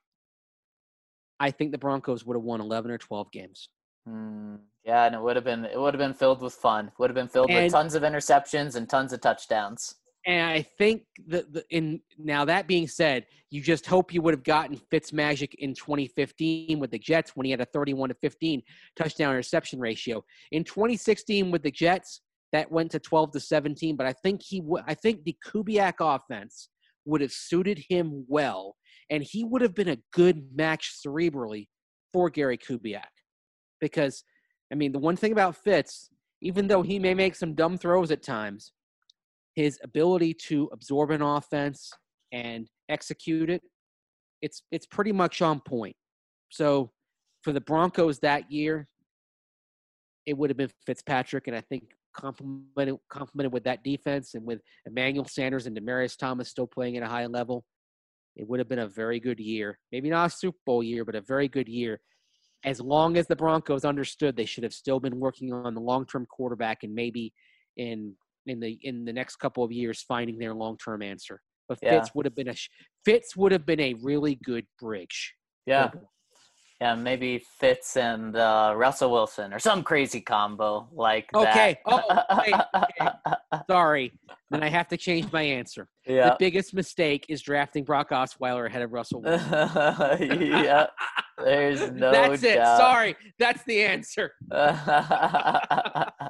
I think the Broncos would have won eleven or twelve games. Mm, yeah, and it would have been it would have been filled with fun. Would have been filled and, with tons of interceptions and tons of touchdowns. And I think that the, in now that being said, you just hope you would have gotten Fitzmagic in twenty fifteen with the Jets when he had a thirty-one to fifteen touchdown interception ratio. In twenty sixteen with the Jets, that went to twelve to seventeen. But I think he w- I think the Kubiak offense would have suited him well, and he would have been a good match cerebrally for Gary Kubiak. Because, I mean, the one thing about Fitz, even though he may make some dumb throws at times, his ability to absorb an offense and execute it, it's it's pretty much on point. So for the Broncos that year, it would have been Fitzpatrick, and I think complemented, complemented with that defense and with Emmanuel Sanders and Demaryius Thomas still playing at a high level, it would have been a very good year. Maybe not a Super Bowl year, but a very good year. As long as the Broncos understood they should have still been working on the long-term quarterback and maybe in in the in the next couple of years finding their long-term answer. But Yeah. Fitz would have been a Fitz would have been a really good bridge. Yeah. Yeah, maybe Fitz and uh, Russell Wilson or some crazy combo like Okay. that. Oh, wait, okay. Sorry. Then I have to change my answer. Yeah. The biggest mistake is drafting Brock Osweiler ahead of Russell Wilson. yeah. There's no That's it. doubt. Sorry. That's the answer.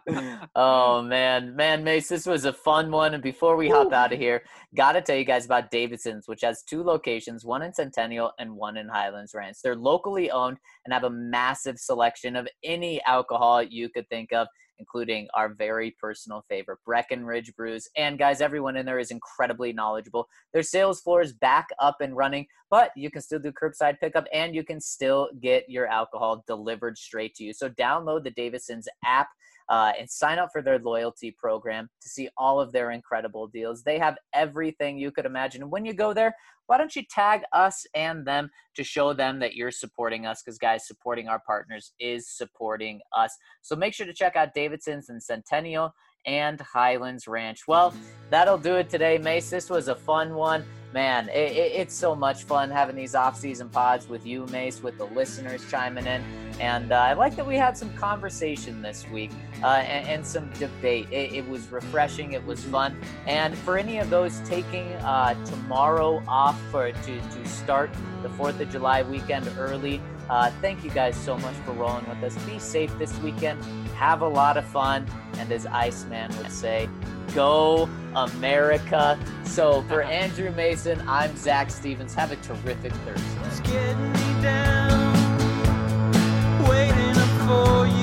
Oh, man. Man, Mace, this was a fun one. And before we hop out of here, got to tell you guys about Davidson's, which has two locations, one in Centennial and one in Highlands Ranch. They're locally owned and have a massive selection of any alcohol you could think of, including our very personal favorite, Breckenridge Brews. And guys, everyone in there is incredibly knowledgeable. Their sales floor is back up and running, but you can still do curbside pickup and you can still get your alcohol delivered straight to you. So download the Davidson's app uh, and sign up for their loyalty program to see all of their incredible deals. They have everything you could imagine. And when you go there, why don't you tag us and them to show them that you're supporting us? Because, guys, supporting our partners is supporting us. So make sure to check out Davidson's in Centennial and Highlands Ranch. Well, that'll do it today, Mace. This was a fun one. Man, it, it, it's so much fun having these off-season pods with you, Mace, with the listeners chiming in. And uh, I like that we had some conversation this week uh, and, and some debate. It, it was refreshing. It was fun. And for any of those taking uh, tomorrow off for to, to start the fourth of July weekend early, uh, thank you guys so much for rolling with us. Be safe this weekend. Have a lot of fun. And as Iceman would say, go America. So for Andrew Mason, I'm Zach Stevens. Have a terrific Thursday. It's getting me down, waiting up for you.